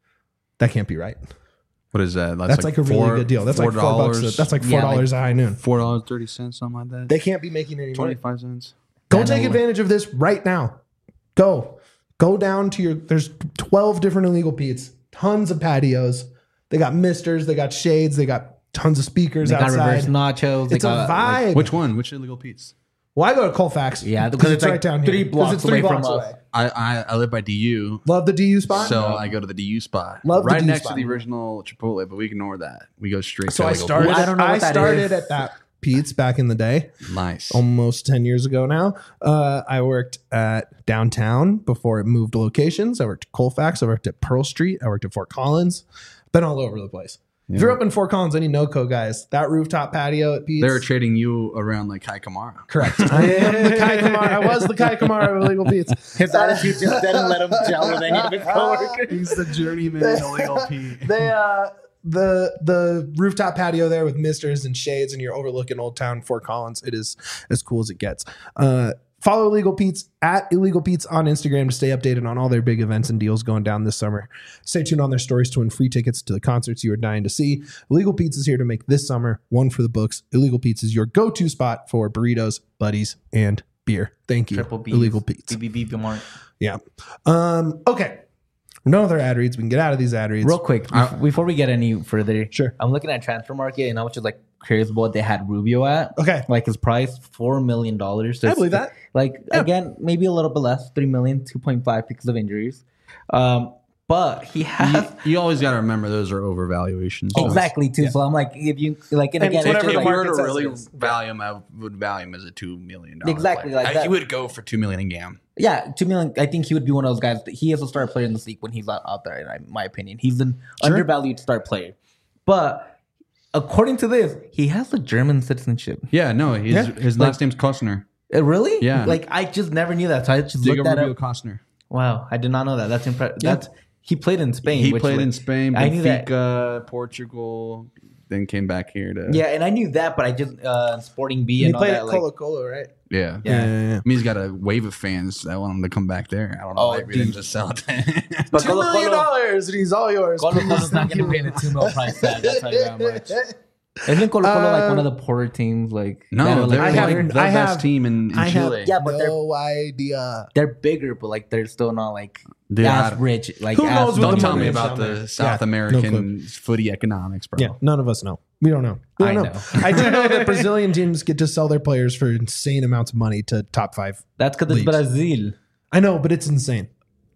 That can't be right. What is that? That's, like, a really four- good deal. That's like four bucks. a- That's like four Yeah, dollars like a High Noon. four dollars and thirty cents, something like that. They can't be making any money. Twenty-five cents. Go Yeah, take no way. advantage of this right now. Go. Go down to your, there's twelve different Illegal Pete's, tons of patios. They got misters, they got shades, they got tons of speakers They got outside. reverse nachos. They It's a got, vibe. like, Which one? Which illegal Pete's? Well, I go to Colfax. Yeah, because because it's it's right like down three here. 'Cause blocks it's three away from blocks us. away. I, I I live by D U. Love the D U spot. So I go to the D U spot. Love the right D U next spot. to the original Chipotle, but we ignore that. We go straight So to I illegal started. I don't know I what that started is. at that Pete's back in the day, Pete's. Nice. almost ten years ago now. Uh, I worked at downtown before it moved locations. I worked at Colfax. I worked at Pearl Street. I worked at Fort Collins. Been all over the place. If you're up in Fort Collins, any NoCo guys, that rooftop patio at Pete's. They were trading you around like Kai Kamara. Correct. I am the Kai Kamara. I was the Kai Kamara of Illegal Pete's. His attitude just didn't let him gel with any of his coworkers. He's the journeyman illegal Pete. They uh the the rooftop patio there with misters and shades, and you're overlooking Old Town Fort Collins. It is as cool as it gets. Uh, follow Illegal Pete's at Illegal Pete's on Instagram to stay updated on all their big events and deals going down this summer. Stay tuned on their stories to win free tickets to the concerts you are dying to see. Illegal Pete's is here to make this summer one for the books. Illegal Pete's is your go-to spot for burritos, buddies, and beer. Thank you, Triple B. Illegal Pete's. B B B Mark. Yeah. Um. Okay. No other ad reads. We can get out of these ad reads. Real quick, Uh, bef- before we get any further, Sure. I'm looking at Transfer Market and I was just like curious about what they had Rubio at. Okay. Like his price, four million dollars. I believe that. Like Yeah. again, maybe a little bit less, three million, two point five because of injuries. Um, but he You, has you always got to remember those are overvaluations. So exactly too. So I'm like, if you like, and And again, it's If, whatever if the you market were to says really it is. value him, I would value him as a two million dollars. Exactly like I, that. He would go for two million in Gam. yeah, two million. I think he would be one of those guys. That he is a star player in this league when he's out, out there. In my opinion, he's an Sure. undervalued star player. But according to this, he has a German citizenship. Yeah, no, his Yeah. his last name's Kostner. Uh, really? Yeah. Like I just never knew that. So I just Diego looked that Rubio up. Kostner. Wow, I did not know that. That's impressive. Yeah. That's he played in Spain. He which, played like, in Spain, I knew that. Benfica, Portugal, then came back here to Yeah, and I knew that, but I just uh, Sporting B He and all played that. at Like, Colo Colo, right? yeah. Yeah. yeah. I mean, he's got a wave of fans that want him to come back there. I don't know Oh, why we dude. didn't just sell it. but Two Colo million Colo, dollars, and he's all yours. Colo Please. Colo's not Thank going to you. pay the two mil price tag. That's how you that much. Isn't Colo Colo like one of the poorer teams? Like that no, are, they're like, I have- like bigger? the I best have- team in, in I have Chile. Yeah, but they're- no idea. they're bigger, but like they're still not like Dude, as I- rich. Like Who as knows what Don't the tell money me is about down the there. South Yeah, no American footy economics, bro. Yeah, none of us know. We don't know. We don't I know. know. I do know that Brazilian teams get to sell their players for insane amounts of money to top five. that's because it's Leagues. Brazil. I know, but it's insane.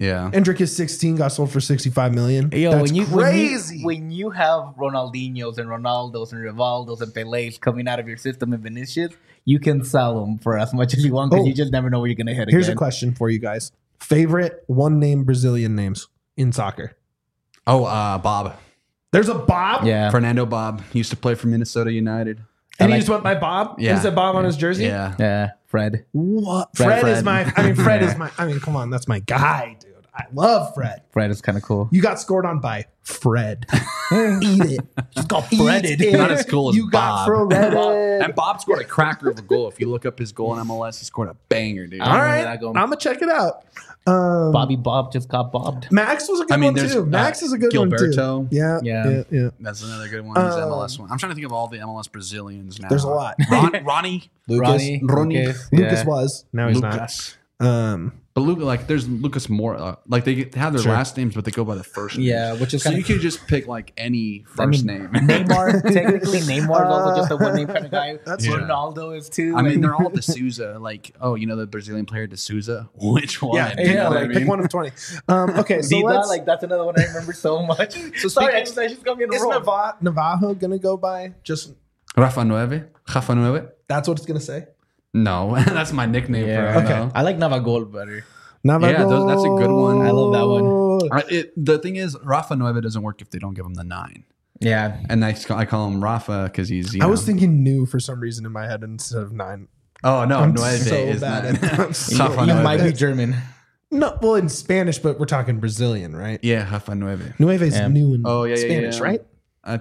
Yeah. Endrick is sixteen, got sold for sixty-five million. Yo, That's when you crazy. When you, when you have Ronaldinho's and Ronaldo's and Rivaldo's and Pele's coming out of your system and Vinicius, you can sell them for as much as you want because Oh. you just never know where you're gonna hit. Here's again. a question for you guys: favorite one-name Brazilian names in soccer? Oh, uh, Bob. There's a Bob. Yeah, Fernando Bob. He used to play for Minnesota United. And I he like- just went by Bob. Yeah. And it said Bob on his jersey. Yeah. yeah, Fred. What? Fred, Fred, is Fred. my. I mean, Fred is my. I mean, come on, that's my guy, dude. I love Fred. Fred is kind of cool. You got scored on by Fred. Eat it. Just got Eat Freded. it. Not as cool as you got Bob. Freded. And Bob scored a cracker of a goal. If you look up his goal in M L S, he scored a banger, dude. I All remember right, that I'm going- gonna check it out. Um, Bobby Bob just got bobbed. Max was a good I mean, one there's, too. uh, Max is a good one Gilberto. too. Yeah, Yeah. yeah, yeah. That's another good one. He's Um, M L S one. I'm trying to think of all the M L S Brazilians now. There's a lot. Ron, Ronnie. Lucas, Ronnie, Ronnie. Lucas, Lucas yeah. was. Now he's Lucas. not. Um, But Luca, like, there's Lucas Moore. Uh, like, they have their Sure. last names, but they go by the first name. Yeah, which is So kind you of. could just pick, like, any I first mean, name. Neymar, technically, Neymar is also just a one name kind of guy. That's Yeah. Ronaldo is too. I mean, Like- they're all D'Souza. Like, oh, you know the Brazilian player D'Souza? Which one? yeah, You know yeah, what I like mean? pick one of twenty. Um, okay, so Vida, let's. like that's another one I remember so much. So Sorry, I speaking- just, I just got me in a is roll. Nava- Navajo gonna go by? Just Rafa Nueve? Rafa Nueve? that's what it's gonna say. No, that's my nickname Yeah. for him. Okay. though. I like Navagol better. Navajo. Yeah, those- that's a good one. I love that one. Uh, It, the thing is, Rafa Nueve doesn't work if they don't give him the nine. Yeah, And I, I call him Rafa because he's, you I know. was thinking new for some reason in my head instead of nine. oh, no, I'm Nueve so is bad nine. at- I'm so- Rafa you Nueve. might be German. No, well, in Spanish, but we're talking Brazilian, right? Yeah, Rafa Nueve. Nueve is Yeah. new in Oh, yeah, yeah, Spanish, yeah. right? Uh,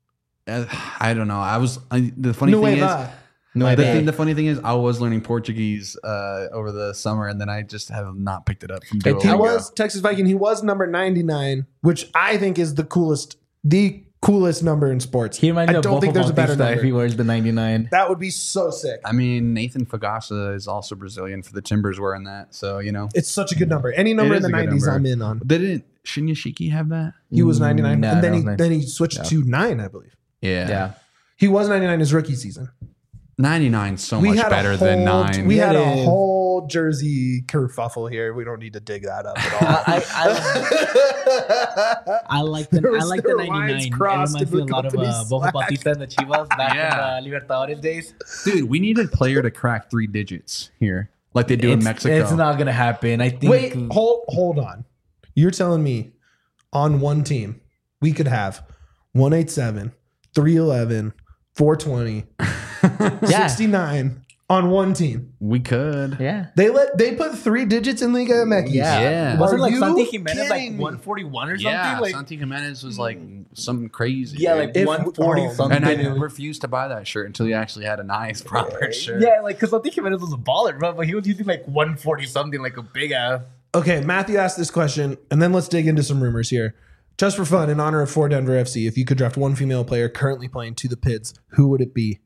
uh, I don't know. I was I, the funny thing is Nueva. No, the, thing, the funny thing is I was learning Portuguese uh, over the summer, and then I just have not picked it up from Hey, Duolingo. He was Texas Viking. He was number ninety-nine, which I think is the coolest, the coolest number in sports. He reminds I me of don't think there's a better Bautista if he number. wears the ninety-nine. That would be so sick. I mean, Nathan Fagasa is also Brazilian for the Timbers wearing that, so you know It's such a good number. Any number It in is the a good nineties, number. I'm in on. they didn't. Shinyashiki have that? He was ninety-nine, No, and then I he don't think- then he switched to nine, I believe. Yeah, Yeah, He was ninety-nine his rookie season. ninety-nine so much a better whole, than nine. We Yeah, had it a is. whole jersey kerfuffle here. We don't need to dig that up at all. I, I, I like the There was- I like there the were lines ninety-nine. It crossed reminds me a in the lot of uh, company's Boca Slack. Bautista and the Chivas back Yeah. in the Libertadores days. Dude, we need a player to crack three digits here, like they do in It's, Mexico. it's not gonna happen. I think. Wait, hold hold on. You're telling me on one team we could have one eighty-seven, three eleven, four twenty, yeah, sixty-nine on one team. we could. yeah. They let they put three digits in Liga M X. Yeah. Yeah. Wasn't Are like you Santi Jimenez like kidding me? one forty-one or something? Yeah, like, Santi Jimenez was like something crazy. yeah, dude. like If- one forty oh, something. and I refused to buy that shirt until he actually had a nice proper shirt. Yeah, like because Santi Jimenez was a baller, bro, but he was using like one forty something, like a big ass. Okay, Matthew asked this question, and then let's dig into some rumors here. Just for fun, in honor of For Denver F C, if you could draft one female player currently playing to the Pids, who would it be?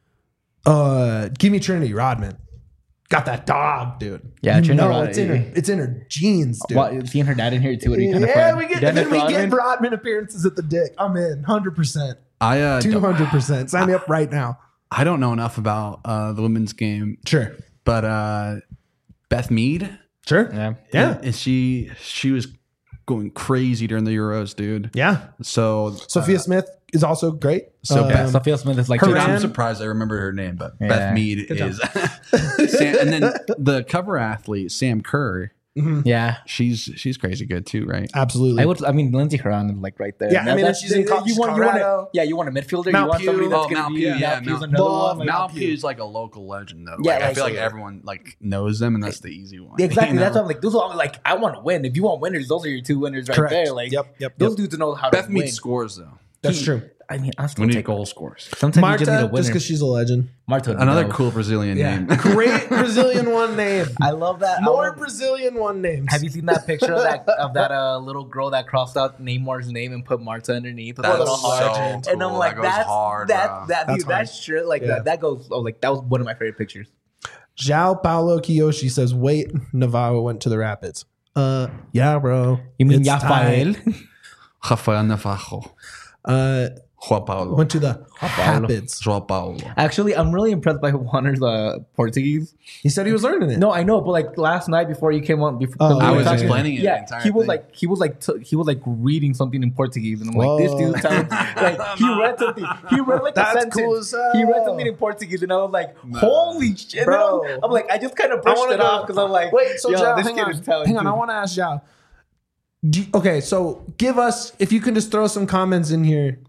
Uh, give me Trinity Rodman. Got that dog, dude. Yeah, you Trinity know Rodman. it's in her. It's in her genes, dude. Well, seeing her dad in here too would be kind of Yeah, fun. we get Dennis then we get Rodman. Rodman appearances at the Dick. I'm in, one hundred percent, I uh, two don't, hundred percent. Sign me up right now. I don't know enough about uh, the women's game, Sure, but uh, Beth Mead, sure, Yeah. yeah, is she she was going crazy during the Euros, dude. yeah. So Sophia Smith is also great. so Um, Yeah, Sophia Smith is like her Dude, Haran? I'm surprised I remember her name, but Yeah. Beth Mead Good is. Sam, and then the cover athlete Sam Kerr, yeah. she's she's crazy good too, right? absolutely. I would. I mean, Lindsey Horan is like right there. Yeah, I mean, she's in co- you want, you want Colorado. a, yeah, you want a midfielder. Mount you want Pew. somebody that's Oh, gonna Mount be Pew, yeah, yeah, Pew's Mount- another Love one. Like, Mount Pew. Pew's like a local legend though. Yeah, Like, I like, feel like so- everyone like knows them, and that's the easy one. exactly. you That's know? what I'm like. Those are I'm like. I want to win. If you want winners, those are your two winners right Correct. there. Like, Yep, yep, those yep. dudes know how Beth to win. Mead scores though. That's He- true. I mean, I still We need take goal scores. Sometimes Marta, you just need a just winner. because she's a legend. Marta, Another no. cool Brazilian Yeah, name. great Brazilian one name. I love that. I More love- Brazilian one names. Have you seen that picture of that of that uh, little girl that crossed out Neymar's name and put Marta underneath with a That's little heart? so And I'm cool. like, That goes that's hard, that bro. that That's dude, that hard. shirt like Yeah. that. That goes. Oh, like that was one of my favorite pictures. Zhao Paulo Kiyoshi says, wait, Navarro went to the Rapids. Uh, yeah, bro. You mean It's Rafael? time. Rafael Navarro. Uh, Joao Paulo. Went to the Paulo. Rapids. Joao Paulo. Actually, I'm really impressed by Juaner's uh, Portuguese. He said he was learning it. No, I know, but like last night before you came on, before Oh, we I were was talking- explaining it. the Yeah, entire he was thing. like he was like t- he was like reading something in Portuguese, and I'm like, this Whoa. dude sounds like he read something. He read like That's a sentence. cool as hell. He read something in Portuguese, and I was like, holy shit, Bro. bro! I'm like, I just kind of brushed wanna it go- off because I'm like, Wait, so yo, Zhao, this hang kid on. is talented. Hang on, I want to ask Zhao. Do you- okay, so give us, if you can just throw some comments in here.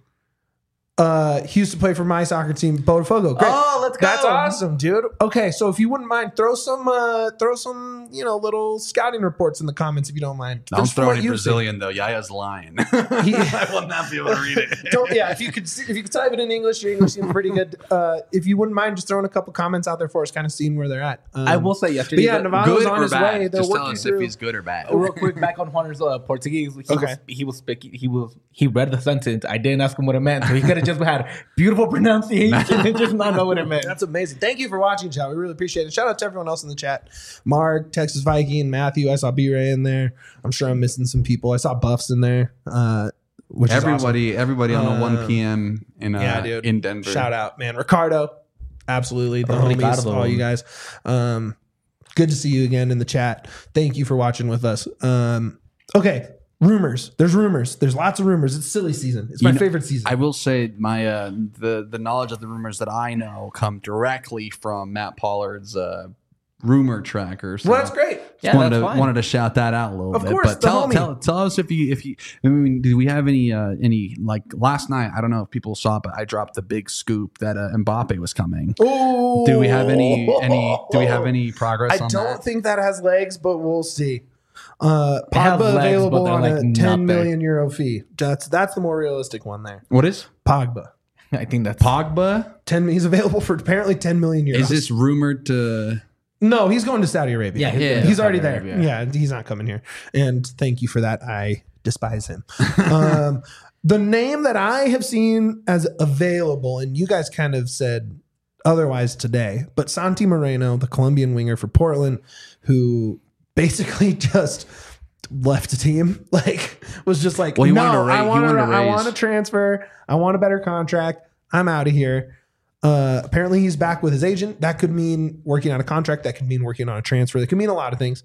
Uh, he used to play for my soccer team, Botafogo. Great. Oh, let's go. That's awesome, dude. Okay, so if you wouldn't mind, throw some, uh, throw some, you know, little scouting reports in the comments if you don't mind. Don't Just throw what any you Brazilian though. Yaya's lying. He- I will not be able to read it. think. Don't, yeah, if you could, see- if you could type it in English, your English seems pretty good. Uh, if you wouldn't mind, just throwing a couple comments out there for us, kind of seeing where they're at. Um, I will say But yesterday. yeah, that- Navarro's Good on or his bad? way. They're Just tell working us through. if he's good or bad. Real quick, back on Juaner's uh, Portuguese. He Okay. was he was speaking. He was he read the sentence. I didn't ask him what it meant, so he could have just had beautiful pronunciation and just not know what it meant. That's amazing. Thank you for watching, chat. We really appreciate it. Shout out to everyone else in the chat. Mark, Texas Viking, Matthew. I saw B-Ray in there. I'm sure I'm missing some people. I saw Buffs in there. Uh, which is awesome. Everybody, everybody on the Um, one p.m. in uh, yeah, dude. in Denver. Shout out, man. Ricardo. Absolutely. The Oh, homies, Ricardo. all you guys. Um, good to see you again in the chat. Thank you for watching with us. Um, okay. Rumors. There's rumors. There's lots of rumors. It's silly season. It's my You know, favorite season. I will say my uh, the the knowledge of the rumors that I know come directly from Matt Pollard's uh, rumor tracker. So well, that's great. just Yeah, wanted that's to fine. wanted to shout that out a little Of bit. course, but the tell, homie. tell tell us if you if you I mean, do we have any uh, any like last night? I don't know if people saw, it, but I dropped the big scoop that uh, Mbappe was coming. Ooh. Do we have any any Do we have any progress I on don't that? think that has legs, but we'll see. Uh, It has Pogba legs, available but they're, on like, a not ten there. million euro fee. That's that's the more realistic one there. What is Pogba, I think that's Pogba? ten. He's available for apparently ten million euros. Is this rumored to? No, he's going to Saudi Arabia. Yeah, he's Yeah. going to he's Saudi already there. Arabia. Yeah, he's not coming here. And thank you for that. I despise him. um, the name that I have seen as available, and you guys kind of said otherwise today, but Santi Moreno, the Colombian winger for Portland, who basically just left the team, like was just like, Well, he no, wanted to ra- I he want wanted to I raise- want to transfer. I want a better contract. I'm out of here. Uh, apparently he's back with his agent. That could mean working on a contract. That could mean working on a transfer. That could mean a lot of things.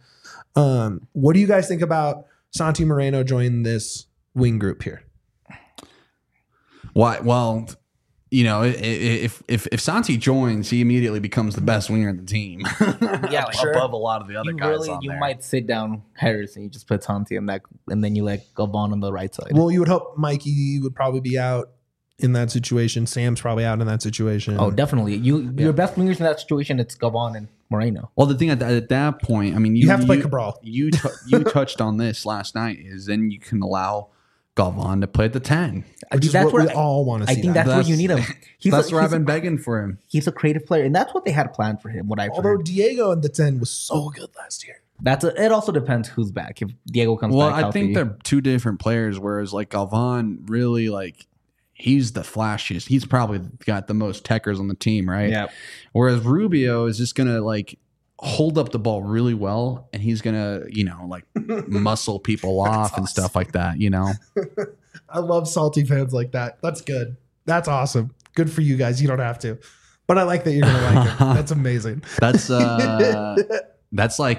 Um, what do you guys think about Santi Moreno joining this wing group here? Why? Well, you know, i- i- if if if Santi joins, he immediately becomes the best winger in the team. Yeah, above sure. a lot of the other you guys really on you there. might sit down Harris and you just put Santi in that, and then you let Gavon on the right side. Well, you would hope Mikey would probably be out in that situation. Sam's probably out in that situation. oh, definitely. You your best wingers in that situation, it's Gavon and Moreno. Well, the thing at, that- at that point, I mean, you, You have to play Cabral. You t- you touched on this last night. Is then you can allow Galvan to play at the ten. I which think is that's what where we I, all want to I see. think that. that's, where you need him. He's That's a, where I've he's, been a, begging for him. he's a creative player, and that's what they had planned for him. What I've Although heard. Diego in the ten was so good last year. That's a, it. Also depends who's back. If Diego comes Well, back, I healthy. think they're two different players. Whereas like Galvan, really like he's the flashiest. He's probably got the most techers on the team, right? Yeah. Whereas Rubio is just gonna like hold up the ball really well, and he's gonna you know like muscle people off and stuff like that. You know. I love salty fans like that. That's good. That's awesome. Good for you guys. You don't have to. But I like that you're gonna like him. That's amazing. That's uh that's like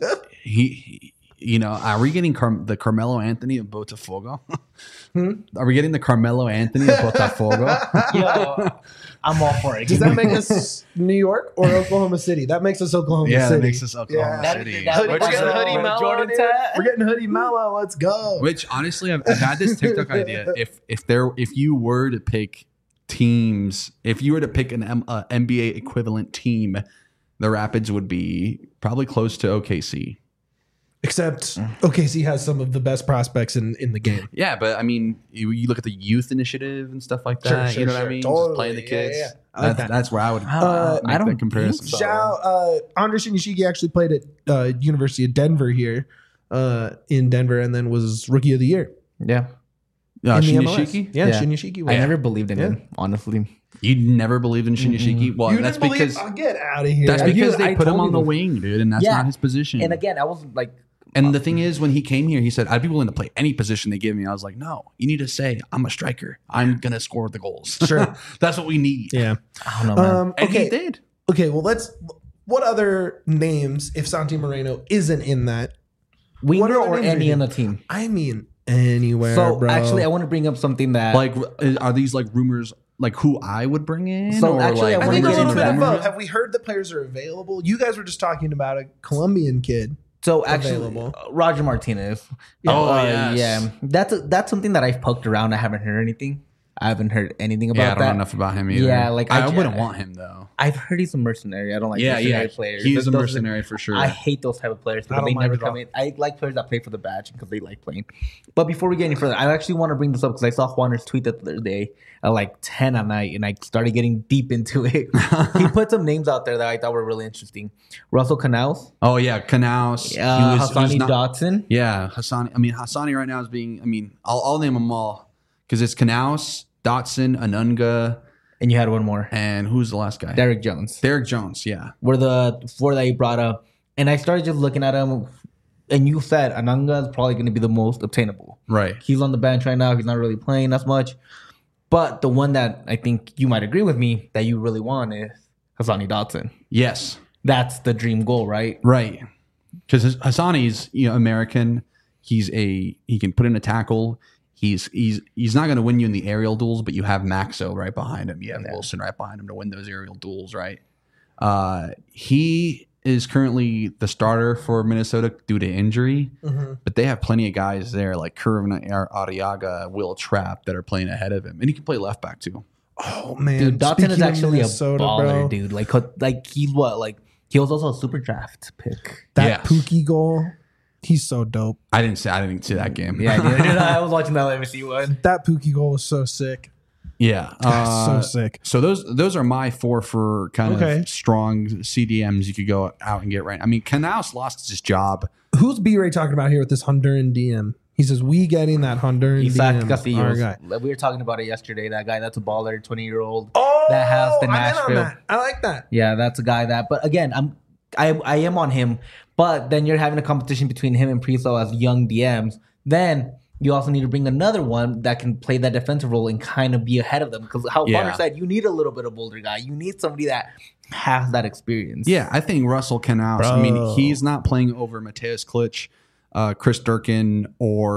he, he- you know, are we getting Car- the Carmelo Anthony of Botafogo? Hmm? Are we getting the Carmelo Anthony of Botafogo? Yo, I'm all for it. Does that make us New York or Oklahoma City? That makes us Oklahoma yeah, City. that makes us Oklahoma Yeah. City. That- We're that- getting that- hoodie with mellow. Jordan dude. tat. We're getting hoodie mellow. Let's go. Which honestly, I've, I've had this TikTok idea. If if there if you were to pick teams, if you were to pick an M, uh, N B A equivalent team, the Rapids would be probably close to O K C. Except O K C has some of the best prospects in, in the game. Yeah, but I mean, you, you look at the youth initiative and stuff like that. Sure, sure, you know what sure. I mean? Totally. Just playing the Yeah, kids. yeah, yeah. I like That's, that. that's where I would Uh, make I don't that comparison. think so. Zhao, uh, Andres Shinyashiki actually played at uh, University of Denver here uh, in Denver and then was Rookie of the Year. Yeah, Uh, in the M L S. Shinyashiki? Yeah, Yeah. Shinyashiki. I was. never believed in Yeah. him. Honestly, You never believed in Shinyashiki? Well, You that's didn't because believe, oh, get out of here. that's I because do- they I put him told on you the this. wing, dude, and that's Yeah. not his position. and again, I was like, And the thing is, when he came here, he said, I'd be willing to play any position they give me. I was like, no, you need to say, I'm a striker. I'm going to score the goals. Sure. That's what we need. Yeah. I don't know, man. Um, And okay. he did. Okay. Well, let's. What other names, if Santi Moreno isn't in that? what Winger other or names are any you- on the team. I mean, anywhere. So bro. actually, I want to bring up something that Like, are these like rumors, like who I would bring in? So actually, I I wanna think a get little into bit of that. both. Have we heard that players are available? You guys were just talking about a Colombian kid. So actually, available. uh, Roger Martinez. Oh, Uh, yes. yeah. That's a, that's something that I've poked around. I haven't heard anything. I haven't heard anything about Yeah, I don't that. know enough about him either. Yeah, like, I, I I ju- wouldn't want him though. I've heard he's a mercenary. I don't like yeah, mercenary yeah, players. he's a Those- mercenary for sure. I hate those type of players I because don't they mind never it at come all. in. I like players that play for the badge because they like playing. But before we get any further, I actually want to bring this up because I saw Juaner's tweet the other day at like ten at night, and I started getting deep into it. He put some names out there that I thought were really interesting. Russell Canals, oh yeah, Knaus. uh, he was, Hassani was not- Dotson. Yeah, Hassani. I mean, Hassani right now is being. I mean, I'll, I'll name them all because it's Knaus, Dotson, Anunga, And you had one more, and who's the last guy? Derek Jones. Derek Jones. Yeah. Were the four that he brought up. And I started just looking at him, and you said Ananga is probably going to be the most obtainable. Right. He's on the bench right now. He's not really playing as much. But the one that I think you might agree with me that you really want is Hassani Dotson. Yes. That's the dream goal, right? Right. Because Hassani's you know American. He's a he can put in a tackle. He's he's he's not going to win you in the aerial duels, but you have Maxo right behind him. You have Yeah. Wilson right behind him to win those aerial duels, right? Uh, he is currently the starter for Minnesota due to injury, Mm-hmm. but they have plenty of guys there like Curvin Arriaga, Will Trapp that are playing ahead of him, and he can play left back too. Oh man, Dude, Dotson Speaking is of actually Minnesota, a baller, bro, dude. Like, like he's what? Like, he was also a super draft pick. That Yes. Pookie goal, he's so dope. I didn't see I didn't see that game. Yeah, dude, I was watching that M S C one. That Pookie goal was so sick. yeah. That's Uh, so sick. So those those are my four for kind Okay. of strong C D Ms you could go out and get right. I mean, Knaus lost his job. Who's B Ray talking about here with this Honduran D M? He says we getting that Honduran Isaac D M. Castillo. Our guy. We were talking about it yesterday. That guy, that's a baller, twenty year old. Oh, That has the I'm in on Nashville. that. I like that. Yeah, that's a guy that. But again, I'm I I am on him. But then you're having a competition between him and Priso as young D Ms. Then you also need to bring another one that can play that defensive role and kind of be ahead of them. Because how Yeah. Bonner said, you need a little bit of older guy. You need somebody that has that experience. Yeah, I think Russell Knaus. I mean, Bro. he's not playing over Mateus Klitsch, uh, Chris Durkin,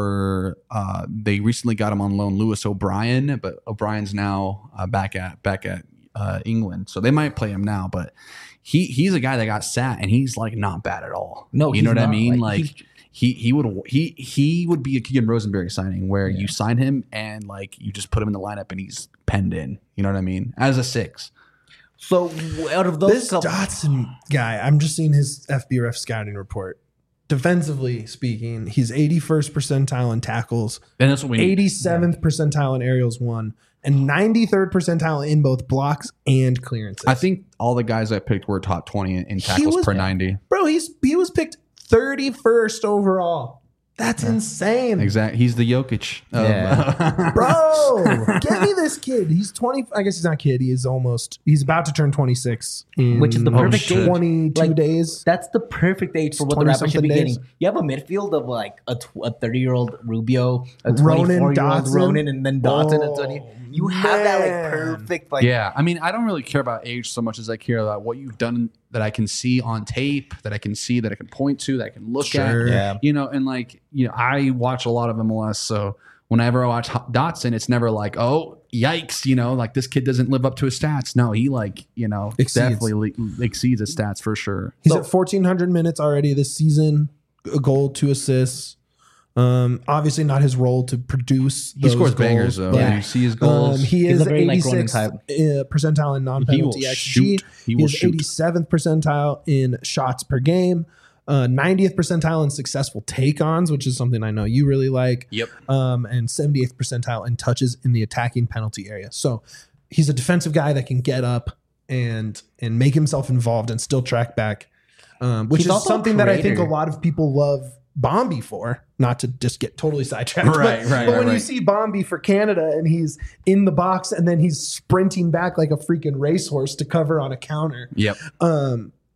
or uh, they recently got him on loan, Lewis O'Brien, but O'Brien's now uh, back at back at uh, England, so they might play him now. But he he's a guy that got sat, and he's like not bad at all. No, you know he's what I not. mean? Like, Like. he's- He he would he he would be a Keegan Rosenberry signing where you sign him and like you just put him in the lineup and he's penned in. You know what I mean? As a six. So out of those This couple, Dotson guy, I'm just seeing his F B R F scouting report. Defensively speaking, he's eighty-first percentile in tackles, And that's what we need. eighty-seventh percentile in aerials one, and ninety-third percentile in both blocks and clearances. I think all the guys I picked were top twenty in, in He tackles was- per ninety. bro, he's he was picked thirty-first overall. That's insane. Exactly. He's the Jokic. Of, Yeah. Bro, get me this kid. He's twenty. I guess he's not kid. He is almost. He's about to turn twenty-six, in Which is the perfect age. twenty-two Like, days. that's the perfect age for what the Raptors should be twenty-something getting. days. You have a midfield of like a thirty year old Rubio, a Ronan, twenty-four year old Dotson. Ronan, and then Dotson Oh, and twenty. You have that like man. perfect like. yeah. I mean, I don't really care about age so much as I care about what you've done that I can see on tape, that I can see, that I can point to, that I can look Sure. at. Yeah. You know, and like, you know, I watch a lot of M L S. So whenever I watch Ho- Dotson, it's never like, oh, yikes, you know, like this kid doesn't live up to his stats. No, he like, you know, Exceeds. definitely le- exceeds his stats for sure. He's So- at fourteen hundred minutes already this season. A goal, two assists. Um, obviously not his role to produce. He those scores goals, bangers though. but, Yeah. You see his goals. Um, he He's is a very, like, Ronan eighty-sixth type. uh, percentile in he will non-penalty X G. shoot. He He will is shoot. eighty-seventh percentile in shots per game. Uh, ninetieth percentile in successful take-ons, which is something I know you really like. Yep. Um, and seventy-eighth percentile in touches in the attacking penalty area. So he's a defensive guy that can get up and and make himself involved and still track back, um, which He's is also a something that I think a creator. lot of people love Bombi for. Not to just get totally sidetracked, but- Right, but, right, when right, you right. see Bombi for Canada and he's in the box and then he's sprinting back like a freaking racehorse to cover on a counter, Yep. um,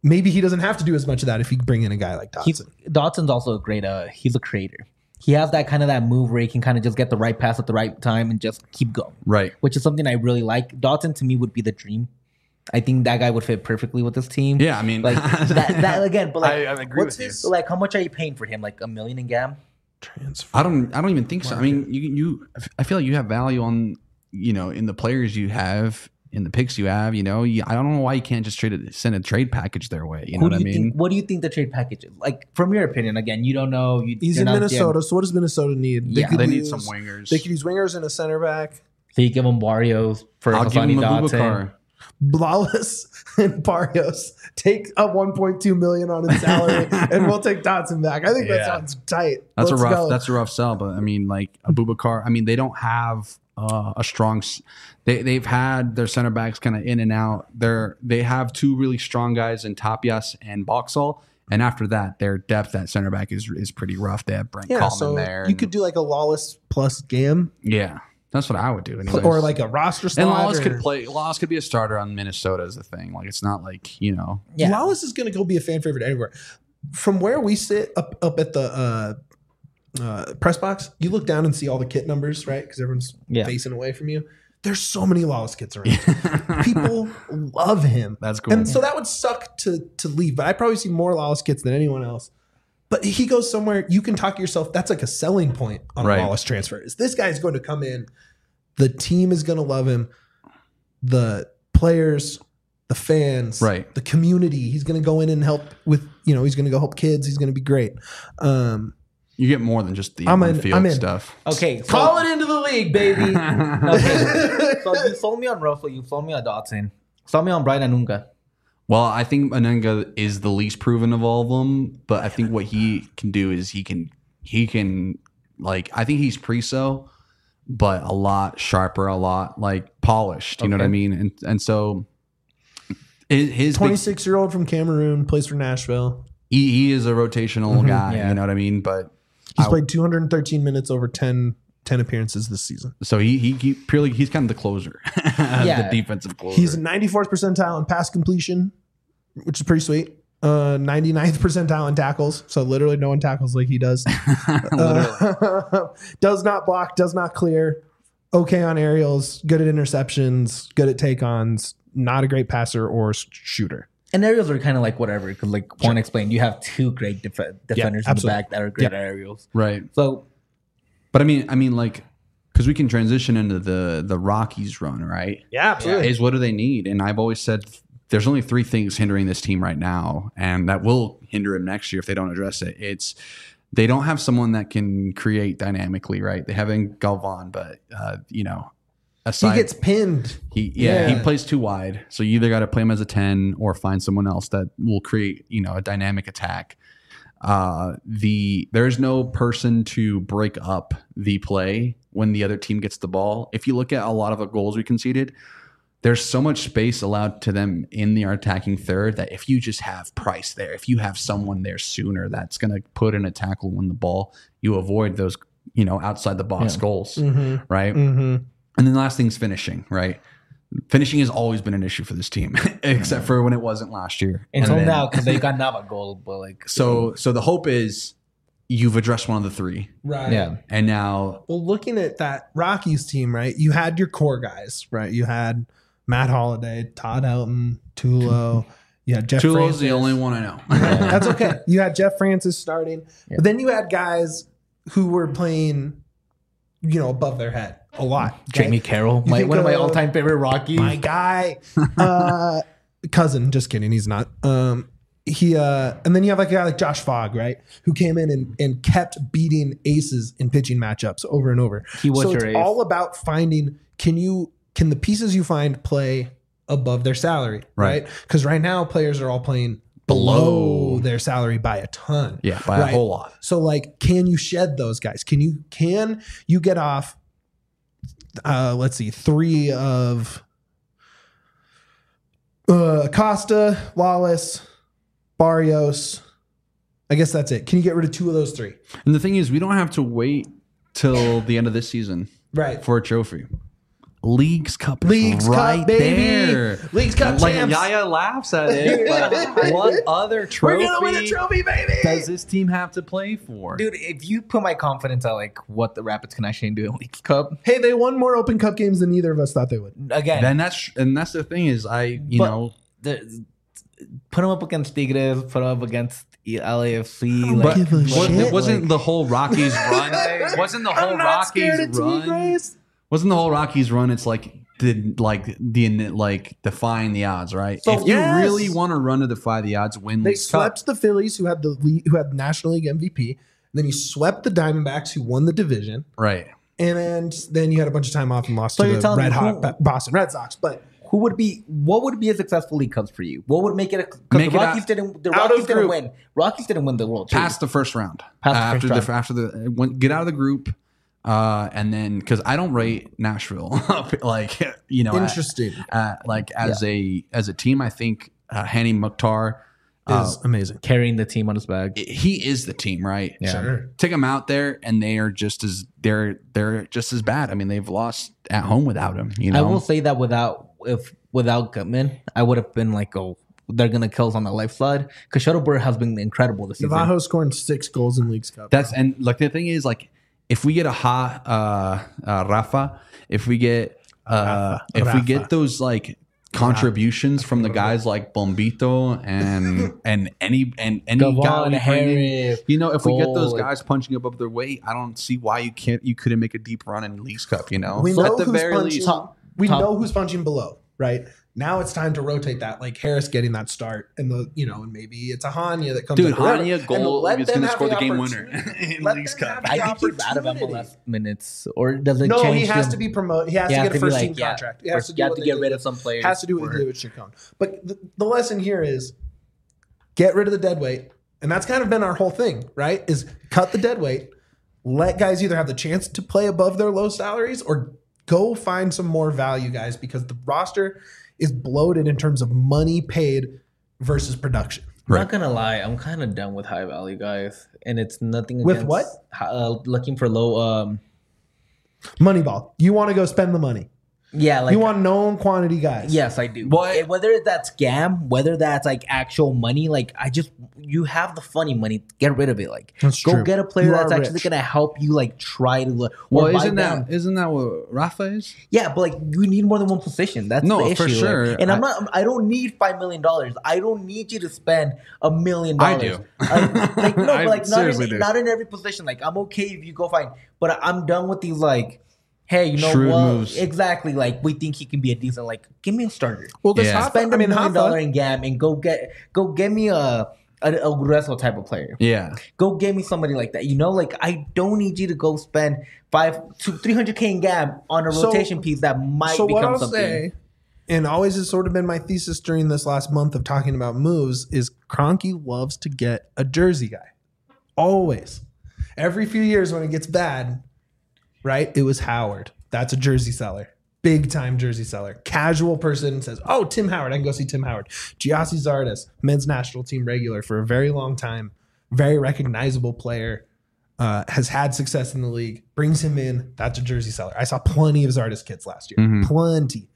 maybe he doesn't have to do as much of that if you bring in a guy like He's, Dotson. Dotson's also a great. Uh, he's a creator. He has that kind of that move where he can kind of just get the right pass at the right time and just keep going. Right. Which is something I really like. Dotson to me would be the dream. I think that guy would fit perfectly with this team. Yeah, I mean, like that, that again. But like, I, I agree what's with his- you. like, how much are you paying for him? Like a million in G A M? Transfer. I don't. I don't even think so. I mean, you. You. I feel like you have value on. You know, in the players you have, in the picks you have. You know, you, I don't know why you can't just trade it, send a trade package their way. You know Who what do I you mean? think? What do you think the trade package is? Like from your opinion, again, you don't know. You, He's you're in not Minnesota, so what does Minnesota need? Yeah. could They need use- some wingers. They could use wingers and a center back. So you give him Barrios for I'll give Hassani him a Dotson. Bubakar. Blawless and Barrios take a one point two million on his salary, and we'll take Dotson back. I think that Yeah. sounds tight. That's Let's a rough. go. That's a rough sell. But I mean, like Abubakar. I mean, they don't have uh, a strong. s- They they've had their center backs kind of in and out. They're they have two really strong guys in Tapias and Boxall. And after that, their depth at center back is is pretty rough. They have Brent yeah. Coleman So there. you and- could do like a Lawless plus Gam, yeah, that's what I would do. anyways. or like a roster slot. and Lawless or- could play. Lawless could be a starter on Minnesota as a thing. Like it's not like you know. Yeah. Lawless is going to go be a fan favorite anywhere. From where we sit up up at the uh, uh, press box, you look down and see all the kit numbers, right? Because everyone's Yeah. facing away from you. There's so many Lawless kits around. People love him. That's cool. And so that would suck to to leave. But I probably see more Lawless kits than anyone else. But he goes somewhere, you can talk yourself. That's like a selling point on Right. a Lawless transfer. Is this guy's going to come in? The team is going to love him. The players, the fans, Right. the community. He's going to go in and help with, you know, he's going to go help kids. He's going to be great. Um, You get more than just the I'm in- on-field I'm in. stuff. Okay, so, call it into the league, baby. okay. So you sold me on Russell. You sold me on Dotson. Sold me on Brian Anunga. Well, I think Anunga is the least proven of all of them, but I think what he can do is he can he can like I think he's pre-so, but a lot sharper, a lot like polished. You know what I Okay. mean? And and so his, his big- twenty-six year old from Cameroon, plays for Nashville. he, he is a rotational guy. yeah. You know what I mean? But He's I- played two hundred thirteen minutes over ten, ten appearances this season. so he he, he purely he's kind of the closer, Yeah. the defensive closer. He's ninety-fourth percentile in pass completion, which is pretty sweet. Uh, ninety-ninth percentile in tackles. So literally no one tackles like he does. Uh, does not block, does not clear. Okay on aerials, good at interceptions, good at take-ons. Not a great passer or s- shooter. And aerials are kind of like whatever. Because like Juan explained, you have two great def- defenders in the absolutely. back that are great Yeah. at aerials. right. So But I mean, I mean, like, because we can transition into the the Rockies run, right? Yeah, absolutely. Is what do they need? And I've always said there's only three things hindering this team right now, and that will hinder him next year if they don't address it. It's they don't have someone that can create dynamically, right? They have in Galvan, but uh, you know, He aside gets pinned. he yeah, Yeah. he plays too wide. So you either got to play him as a ten or find someone else that will create, you know, a dynamic attack. Uh the there's no person to break up the play when the other team gets the ball. If you look at a lot of the goals we conceded, there's so much space allowed to them in the attacking third that if you just have Price there, if you have someone there sooner that's going to put in a tackle when the ball, you avoid those, you know, outside the box Yeah. goals, Mm-hmm. right? Mm-hmm. And then the last thing's finishing, right? Finishing has always been an issue for this team, except for when it wasn't last year. until And then- now, because they got Nava goal, but like So, so the hope is you've addressed one of the three, Right. yeah, and now Well, looking at that Rockies team, right? You had your core guys, right? You had Matt Holliday, Todd Helton, Tulo. You had Jeff Tulo's Francis. the only one I know. That's okay. You had Jeff Francis starting, Yeah. but then you had guys who were playing, you know, above their head a lot. okay? Jamie Carroll, You my, think one of my of- all-time favorite Rockies. my guy, uh, cousin. Just kidding. He's not. Um, he uh, and then you have like a guy like Josh Fogg, right, who came in and, and kept beating aces in pitching matchups over and over. He was so your it's ace. all about finding. Can you can the pieces you find play above their salary, Right. right? Because right now players are all playing below their salary by a ton. Yeah, by Right. a whole lot. So like, can you shed those guys? Can you can you get off? Uh, let's see, three of uh, Acosta, Lawless, Barrios. I guess that's it. Can you get rid of two of those three? And the thing is, we don't have to wait till the end of this season Right. for a trophy. Leagues Cup is Leagues right Cup, baby. there. Leagues Cup Like champs. Yaya laughs at it, but what other We're trophy, gonna win a trophy, baby. does this team have to play for? Dude, if you put my confidence at like what the Rapids can actually do in Leagues Cup, Hey, they won more Open Cup games than either of us thought they would. again, Then that's and that's the thing is I you But- know the, put them up against Tigres, put them up against L A F C. don't Like, give a What- shit. it wasn't like- the whole Rockies run. Wasn't the whole I'm not Rockies scared of run? Tigres. Wasn't the whole Rockies run? It's like the like the like defying the odds, right? So, if you yes. really want to run to defy the odds, win. They Leagues Cup. swept the Phillies, who had the league, who had National League M V P. Then you swept the Diamondbacks, who won the division. right. And then, then you had a bunch of time off and lost So to you're the telling me red who- hot Ba- Boston Red Sox. But who would be what would be a successful League Cups for you? What would make it? Because the Make it Rockies out- didn't. The out Rockies of didn't group. win. Rockies didn't win the World Series. Past the first round. Past the after first the after the when, get out of the group, uh, and then because I don't rate Nashville like you know interesting uh, like as a as a team, I think uh, Hani Mukhtar uh, is amazing. carrying the team on his back. he is the team, right? Yeah. Sure. Take them out there, and they are just as they're they're just as bad. I mean, they've lost at home without him. You know, I will say that without if without Gutman, I would have been like, oh, they're gonna kill us on the life slide. Because Shuttleberg has been incredible this season. Navajo scored six goals in Leagues Cup. that's and like the thing is like if we get a ha uh, uh, Rafa, if we get uh, Rafa. if we Rafa. get those like contributions from the guys like Bombito and and any and any Gavon, guy we bring in, Harris, you know, if we get those Cole, guys punching above their weight, I don't see why you can't you couldn't make a deep run in Leagues Cup. You know, We So know at the who's very punching. least, Top- we top- know who's punching below, right? Now it's time to rotate that, like Harris getting that start, and the you know, and maybe it's a Hanya that comes. dude, up or whatever. Hania And goal let is them going to have score the game opportunity. winner in Let Leagues them Cup. have the I think he's out of M L S opportunity. minutes, or does it No, change? he has him? to be promoted. He has He to has get a to be first team like, yeah, contract. He has to, you do have what to they get did rid with- of some players. Has to do what or- they did with Chacon. But the, the lesson here is get rid of the dead weight, and that's kind of been our whole thing, right? Is cut the dead weight, let guys either have the chance to play above their low salaries or go find some more value guys because the roster is bloated in terms of money paid versus production. I'm Right. not gonna lie, I'm kind of done with high value guys, and it's nothing With against, what? Uh, looking for low. Um, Moneyball. You want to go spend the money. yeah, like you want known quantity guys. yes, I do. What- And whether that's scam, whether that's like actual money, like I just you have the funny money, get rid of it. Like That's go true. get a player You that's are actually rich. gonna help you like try to. Or Well, buy isn't down. that isn't that what Rafa is? Yeah, but like you need more than one position. That's No, the issue. for like- sure. and I'm I- not. I don't need five million dollars. I don't need you to spend a million I dollars. do. I- Like no, I but like not seriously in, do. not in every position. Like I'm okay if you go find, but I'm done with these like. Hey, you know Shrewd what? moves. Exactly. Like we think he can be a decent. Like, give me a starter. Well, this Yeah. Hoffa, Spend I a mean, million dollar Hoffa, in Gam and go get go get me a a, a wrestler type of player. Yeah. Go get me somebody like that. You know, like I don't need you to go spend five to three hundred k in Gam on a So- rotation piece that might so what become I'll something. say, and always has sort of been my thesis during this last month of talking about moves, is Kroenke loves to get a jersey guy. Always. Every few years when it gets bad, right? It was Howard. That's a jersey seller. Big time jersey seller. Casual person says, oh, Tim Howard. I can go see Tim Howard. Giassi Zardes, men's national team regular for a very long time. Very recognizable player. Uh, has had success in the league. Brings him in. That's a jersey seller. I saw plenty of Zardes kits last year. Mhm. Plenty.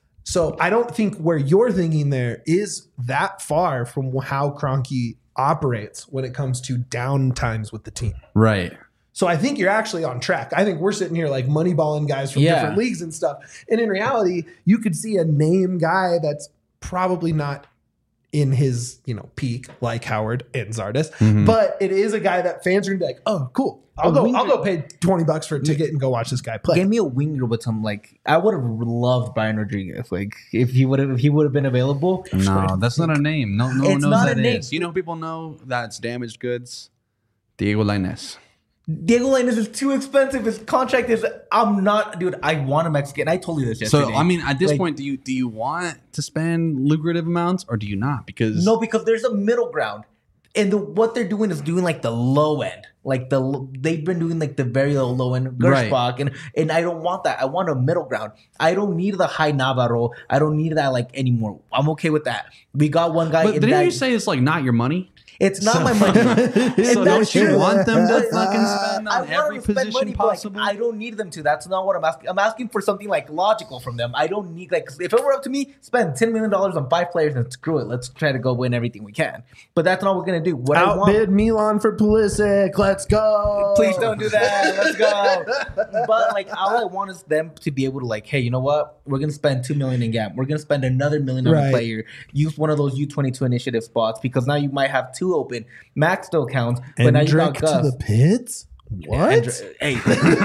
So I don't think where you're thinking there is that far from how Kroenke operates when it comes to down times with the team. Right. So I think you're actually on track. I think we're sitting here like moneyballing guys from Yeah. different leagues and stuff. And in reality, you could see a name guy that's probably not in his, you know, peak like Howard and Zardes, Mhm. but it is a guy that fans are gonna be like, oh, cool. I'll A go. winger- I'll go pay twenty bucks for a ticket and go watch this guy play. Give me a winger with some like I would have loved Brian Rodriguez. Like if he would have if he would have been available. No, that's not a name. No, no one It's knows not that a name. is. You know, people know that's damaged goods. Diego Lainez. Diego Lainez is too expensive. His contract is. I'm not, dude. I want a Mexican. I told you this yesterday. So I mean, at this Like, point, do you do you want to spend lucrative amounts or do you not? Because no, because there's a middle ground, and the, what they're doing is doing like the low end. Like the they've been doing like the very low, low end Right. Gershbach, and and I don't want that. I want a middle ground. I don't need the high Navarro. I don't need that like anymore. I'm okay with that. We got one guy. But in didn't that, you say it's like not your money? It's not So- my money. So And don't that's you true. want them to Uh, fucking spend I on want every them to spend position money, but, like, possible? I don't need them to. That's not what I'm asking. I'm asking for something like logical from them. I don't need like if it were up to me, spend ten million dollars on five players and screw it. Let's try to go win everything we can. But that's not what we're gonna do. What I want. Outbid Milan for Pulisic. Let's go. Please don't do that. Let's go. But like, all I want is them to be able to like, hey, you know what? We're gonna spend two million in Gap. We're gonna spend another million on Right. a player. Use one of those U twenty-two initiative spots because now you might have two open. Max still counts, but now you got Endrick Gus. to the pits. What? Andr- hey,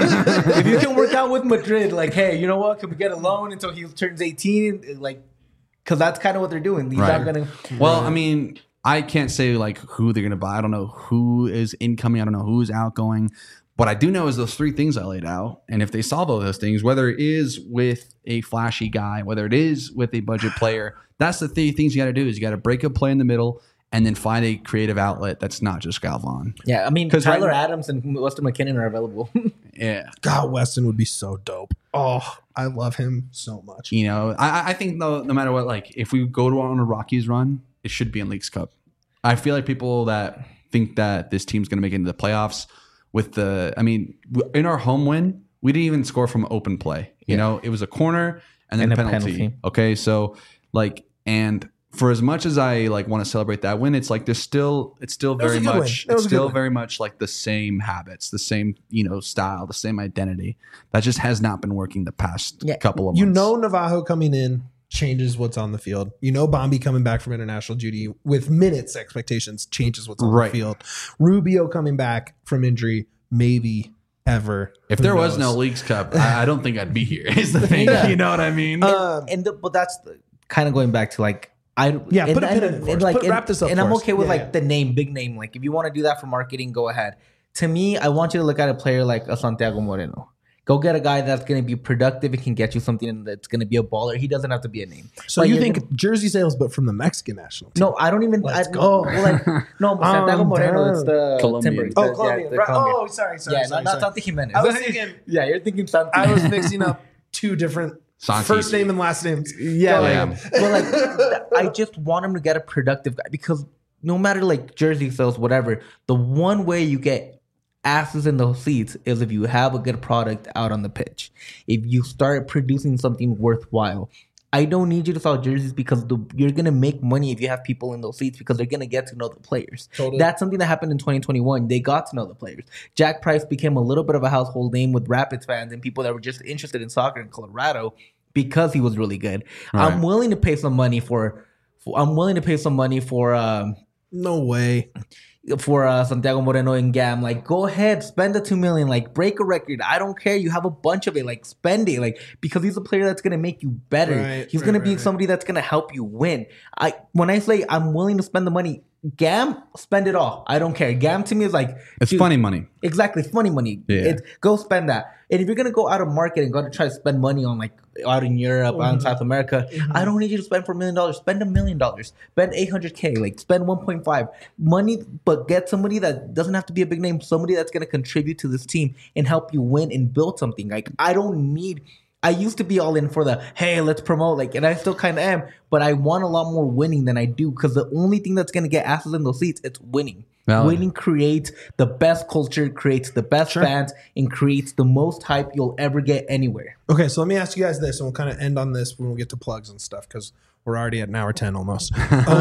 if you can work out with Madrid, like, hey, you know what? Can we get a loan until he turns eighteen? Like, because that's kind of what they're doing. These Right. aren't gonna. Well, I mean, I can't say like who they're gonna buy. I don't know who is incoming. I don't know who's outgoing. What I do know is those three things I laid out. And if they solve all those things, whether it is with a flashy guy, whether it is with a budget player, that's the three things you got to do is you got to break a play in the middle and then find a creative outlet that's not just Galvan. Yeah, I mean, 'Cause Tyler right- Adams and Weston McKinnon are available. Yeah. God, Weston would be so dope. Oh, I love him so much. You know, I, I think though, no matter what, like if we go to on a Rockies run, it should be in Leagues Cup. I feel like people that think that this team's going to make it into the playoffs with the, I mean, w- in our home win, we didn't even score from open play. You Yeah. know, it was a corner and then And a a penalty. penalty. Okay, so like, and for as much as I like want to celebrate that win, it's like there's still, it's still was very a good win. much, It was it's a good still win. very much like the same habits, the same you know style, the same identity. That just has not been working the past Yeah. couple of You months. know, Navajo coming in changes what's on the field. You know, Bombi coming back from international duty with minutes expectations changes what's on Right. the field. Rubio coming back from injury, maybe ever. If Who there was knows? no Leagues Cup, I, I don't think I'd be here. Is the thing, Yeah. you know what I mean? Um, and the, but that's the, kind of going back to like I Yeah, and, put a pin and, in it for and us. like Put- and, wrap this up and for I'm us. okay with Yeah, like yeah. the name, big name. Like if you want to do that for marketing, go ahead. To me, I want you to look at a player like a Santiago Moreno. Go get a guy that's going to be productive and can get you something that's going to be a baller. He doesn't have to be a name. so But you you're think gonna- jersey sales, but from the Mexican national team? No, I don't even. Let's I, go. well, like, no, Santiago Um, Moreno. It's the Colombian. Timber. Oh, the- Colombian. Yeah, the right. Colombian. Oh, sorry, sorry, yeah, sorry, not, not sorry. Santi Jimenez. I was thinking- yeah, you're thinking Santi. I was mixing up two different Santi. first name and last names. Yeah, Go like, ahead. but like th- I just want him to get a productive guy because no matter like jersey sales, whatever, the one way you get asses in those seats is if you have a good product out on the pitch. If you start producing something worthwhile. I don't need you to sell jerseys because the, you're gonna make money if you have people in those seats because they're gonna get to know the players. Totally. That's something that happened in twenty twenty-one. They got to know the players. Jack Price became a little bit of a household name with Rapids fans and people that were just interested in soccer in Colorado because he was really good. Right. I'm willing to pay some money for, for I'm willing to pay some money for um No way. for uh, Santiago Moreno and Gam. Like, go ahead, spend the two million. Like, break a record. I don't care. You have a bunch of it. Like, spend it. Like, because he's a player that's gonna make you better. Right, he's right, gonna right, be right. somebody that's gonna help you win. I when I say I'm willing to spend the money, Gam, spend it all. I don't care. Gam to me is like It's dude, funny money. Exactly, funny money. Yeah. It's, go spend that. And if you're gonna go out of market and go to try to spend money on like out in Europe, out in Mhm. South America, I don't need you to spend for a million dollars. Spend a million dollars. Spend eight hundred k. Like spend one point five money, but get somebody that doesn't have to be a big name. Somebody that's gonna contribute to this team and help you win and build something. Like I don't need. I used to be all in for the hey, let's promote, like, and I still kind of am, but I want a lot more winning than I do because the only thing that's gonna get asses in those seats, it's winning. Valid. Winning creates the best culture, creates the best Sure. fans, and creates the most hype you'll ever get anywhere. Okay, so let me ask you guys this, and we'll kind of end on this when we get to plugs and stuff because we're already at an hour ten almost.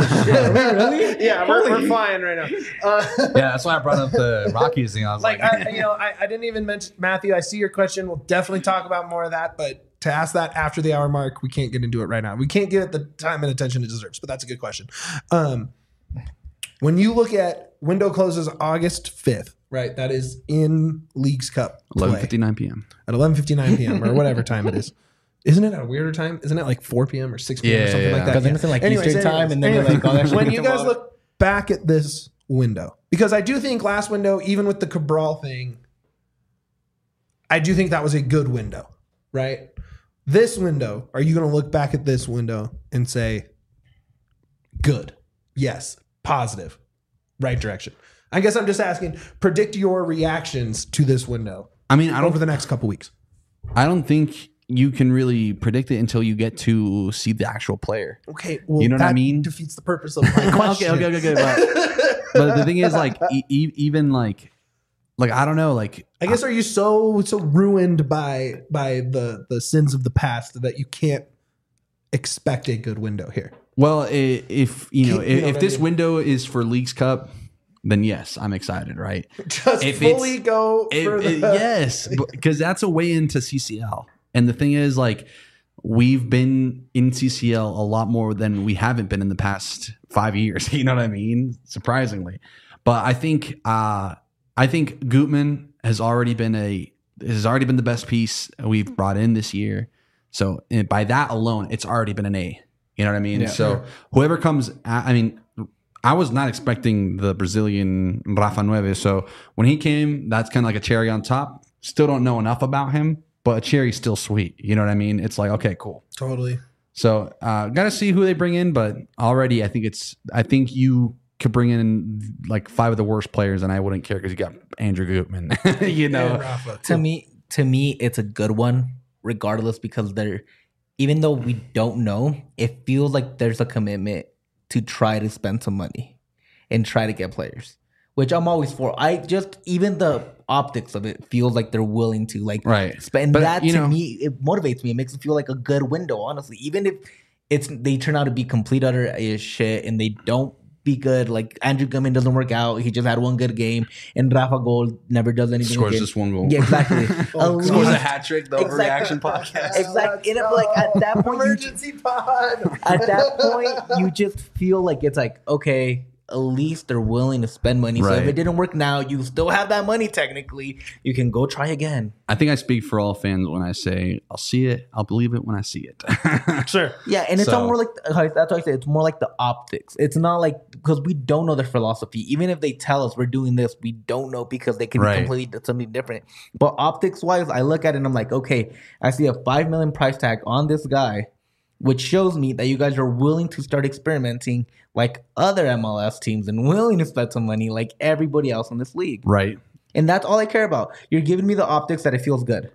Really? Yeah, we're, we're flying right now. Uh, Yeah, that's why I brought up the Rockies thing. I was like, like, I, you know, I, I didn't even mention Matthew. I see your question. We'll definitely talk about more of that, but to ask that after the hour mark, we can't get into it right now. We can't give it the time and attention it deserves, but that's a good question. Um, when you look at window closes August fifth, right? That is in Leagues Cup play eleven fifty-nine p.m. at eleven fifty-nine p.m. or whatever time it is. Isn't it at a weirder time? Isn't it like four p.m. or six p.m. or Yeah, something yeah. like that? Because then it's in, like, Anyways, Eastern time, anyways, and then you're anyways. like, oh, that should when be you guys tomorrow. look back at this window, because I do think last window, even with the Cabral thing, I do think that was a good window, right? This window, are you going to look back at this window and say, good, yes, positive, right direction? I guess I'm just asking, predict your reactions to this window I mean, I over don't, the next couple weeks. I don't think you can really predict it until you get to see the actual player. Okay, well, You know what that I mean? defeats the purpose of my question. okay, okay, okay, okay. But, but the thing is, like, e- e- even like, like I don't know, like, I guess are you so so ruined by by the the sins of the past that you can't expect a good window here? well, i- if you know, Keep- you if, know if what I this mean? window is for Leagues Cup, then yes, I'm excited, right? Just If fully it's- go It- for it- the yes, because that's a way into C C L. And the thing is, like, we've been in C C L a lot more than we haven't been in the past five years. You know what I mean? Surprisingly, but I think uh, I think Gutman has already been a has already been the best piece we've brought in this year. So and by that alone, it's already been an A. You know what I mean? Yeah. So whoever comes, I mean. I was not expecting the Brazilian Rafa Nueve. So when he came, that's kind of like a cherry on top. Still don't know enough about him, but a cherry's still sweet. You know what I mean? It's like, okay, cool. totally. So uh, got to see who they bring in, but already I think it's, I think you could bring in like five of the worst players and I wouldn't care because you got Andrew Gutman, you know? And Rafa, To too. me, to me, it's a good one, regardless, because they're even though we don't know, it feels like there's a commitment to try to spend some money and try to get players, which I'm always for. I just even the optics of it feels like they're willing to like Right. spend But, that you to know- me. It motivates me. It makes it feel like a good window. Honestly, even if it's they turn out to be complete utter as shit and they don't be good. Like Andrew Gutman doesn't work out. He just had one good game, and Rafa Gold never does anything. Scores again. just one goal. Yeah, exactly. Oh, At Scores a least- hat trick, the Exactly. Overreaction podcast. Exactly. And I'm like, at that point, you emergency pod. at that point, you just feel like it's like, okay, at least they're willing to spend money. So if Right. it didn't work now, you still have that money technically. You can go try again. I think I speak for all fans when I say I'll see it, I'll believe it when I see it. Sure. Yeah, and it's So- all more like that's why I say it's more like the optics. It's not like because we don't know their philosophy. Even if they tell us we're doing this, we don't know because they could Right. be completely something different. But optics wise, I look at it and I'm like, okay, I see a five million price tag on this guy, which shows me that you guys are willing to start experimenting like other M L S teams and willing to spend some money like everybody else in this league. Right. And that's all I care about. You're giving me the optics that it feels good.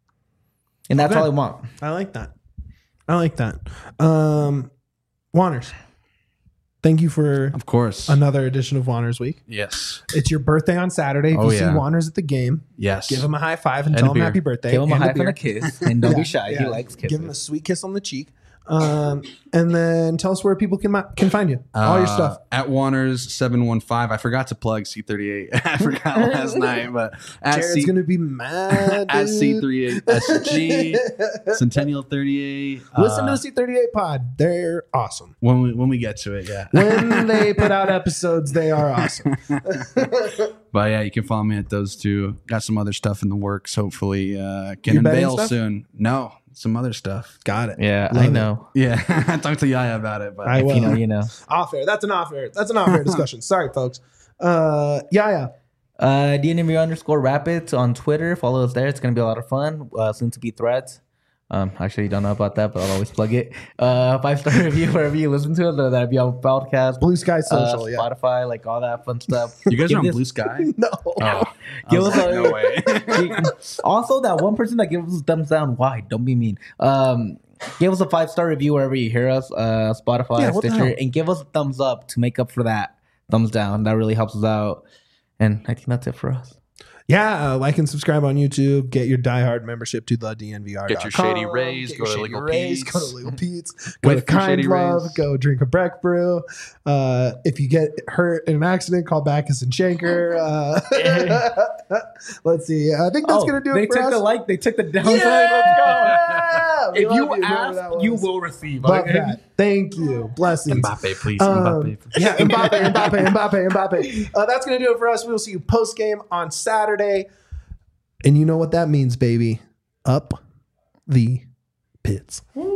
And that's Okay. all I want. I like that. I like that. Um, Wanners, thank you for Of course. another edition of Wanners Week. Yes. It's your birthday on Saturday. If Oh, you see yeah. Wanners at the game, Yes. give him a high five and, And tell a him beer. happy birthday. Give him a and high five beer. and a kiss. And don't Yeah, be shy. yeah. He likes kisses. Give him a sweet kiss on the cheek. Um, and then tell us where people can can find you. All your Uh, stuff. At Wanners seven one five. I forgot to plug C thirty-eight. I forgot last night, but at Jared's C, gonna be mad. at dude. C thirty-eight S G, Centennial thirty-eight. Listen uh, to the C thirty-eight pod. They're awesome. when we when we get to it, yeah. When they put out episodes, they are awesome. But yeah, you can follow me at those two. Got some other stuff in the works. Hopefully, uh, can You betting unveil stuff? soon. No, some other stuff. Got it. Yeah, Love I it. know. Yeah, I talked to Yaya about it, but I will. You know, you know. Off air. That's an off air. That's an off air discussion. Sorry, folks. Uh, yeah, yeah. Uh, D N M V underscore Rapids on Twitter. Follow us there. It's going to be a lot of fun. Uh, soon to be Threads. Um, actually, don't know about that, but I'll always plug it. Uh, five star review wherever you listen to it. Whether that be on podcast, Blue Sky uh, Social. yeah. Spotify, like all that fun stuff. you guys Give are on this- Blue Sky. No. Oh, I Give was us like, a- no way. Also, that one person that gives us thumbs down. Why? Don't be mean. Um, give us a five star review wherever you hear us. Uh, Spotify, Yeah, what the Stitcher, hell? and give us a thumbs up to make up for that thumbs down. That really helps us out. And I think that's it for us. Yeah, uh, like and subscribe on YouTube. Get your diehard membership to the D N V R. Get your Shady Rays, go to Legal Pete's. Go to Legal Pete's. Go Wait to for Kind Shady Love. Rays. Go drink a Breck Brew. Uh, if you get hurt in an accident, call Backus and Shanker. Uh, let's see. I think that's gonna do Oh, they it for took us. the like, they took the downside. Yeah! We If love you whoever ask, that was. you will receive. Love okay? that. Thank you. Blessings. Mbappe, please. Um, Mbappe. yeah, Mbappe, Mbappe, Mbappe, Mbappe. Uh, that's going to do it for us. We will see you post game on Saturday. And you know what that means, baby. Up the pits. Woo.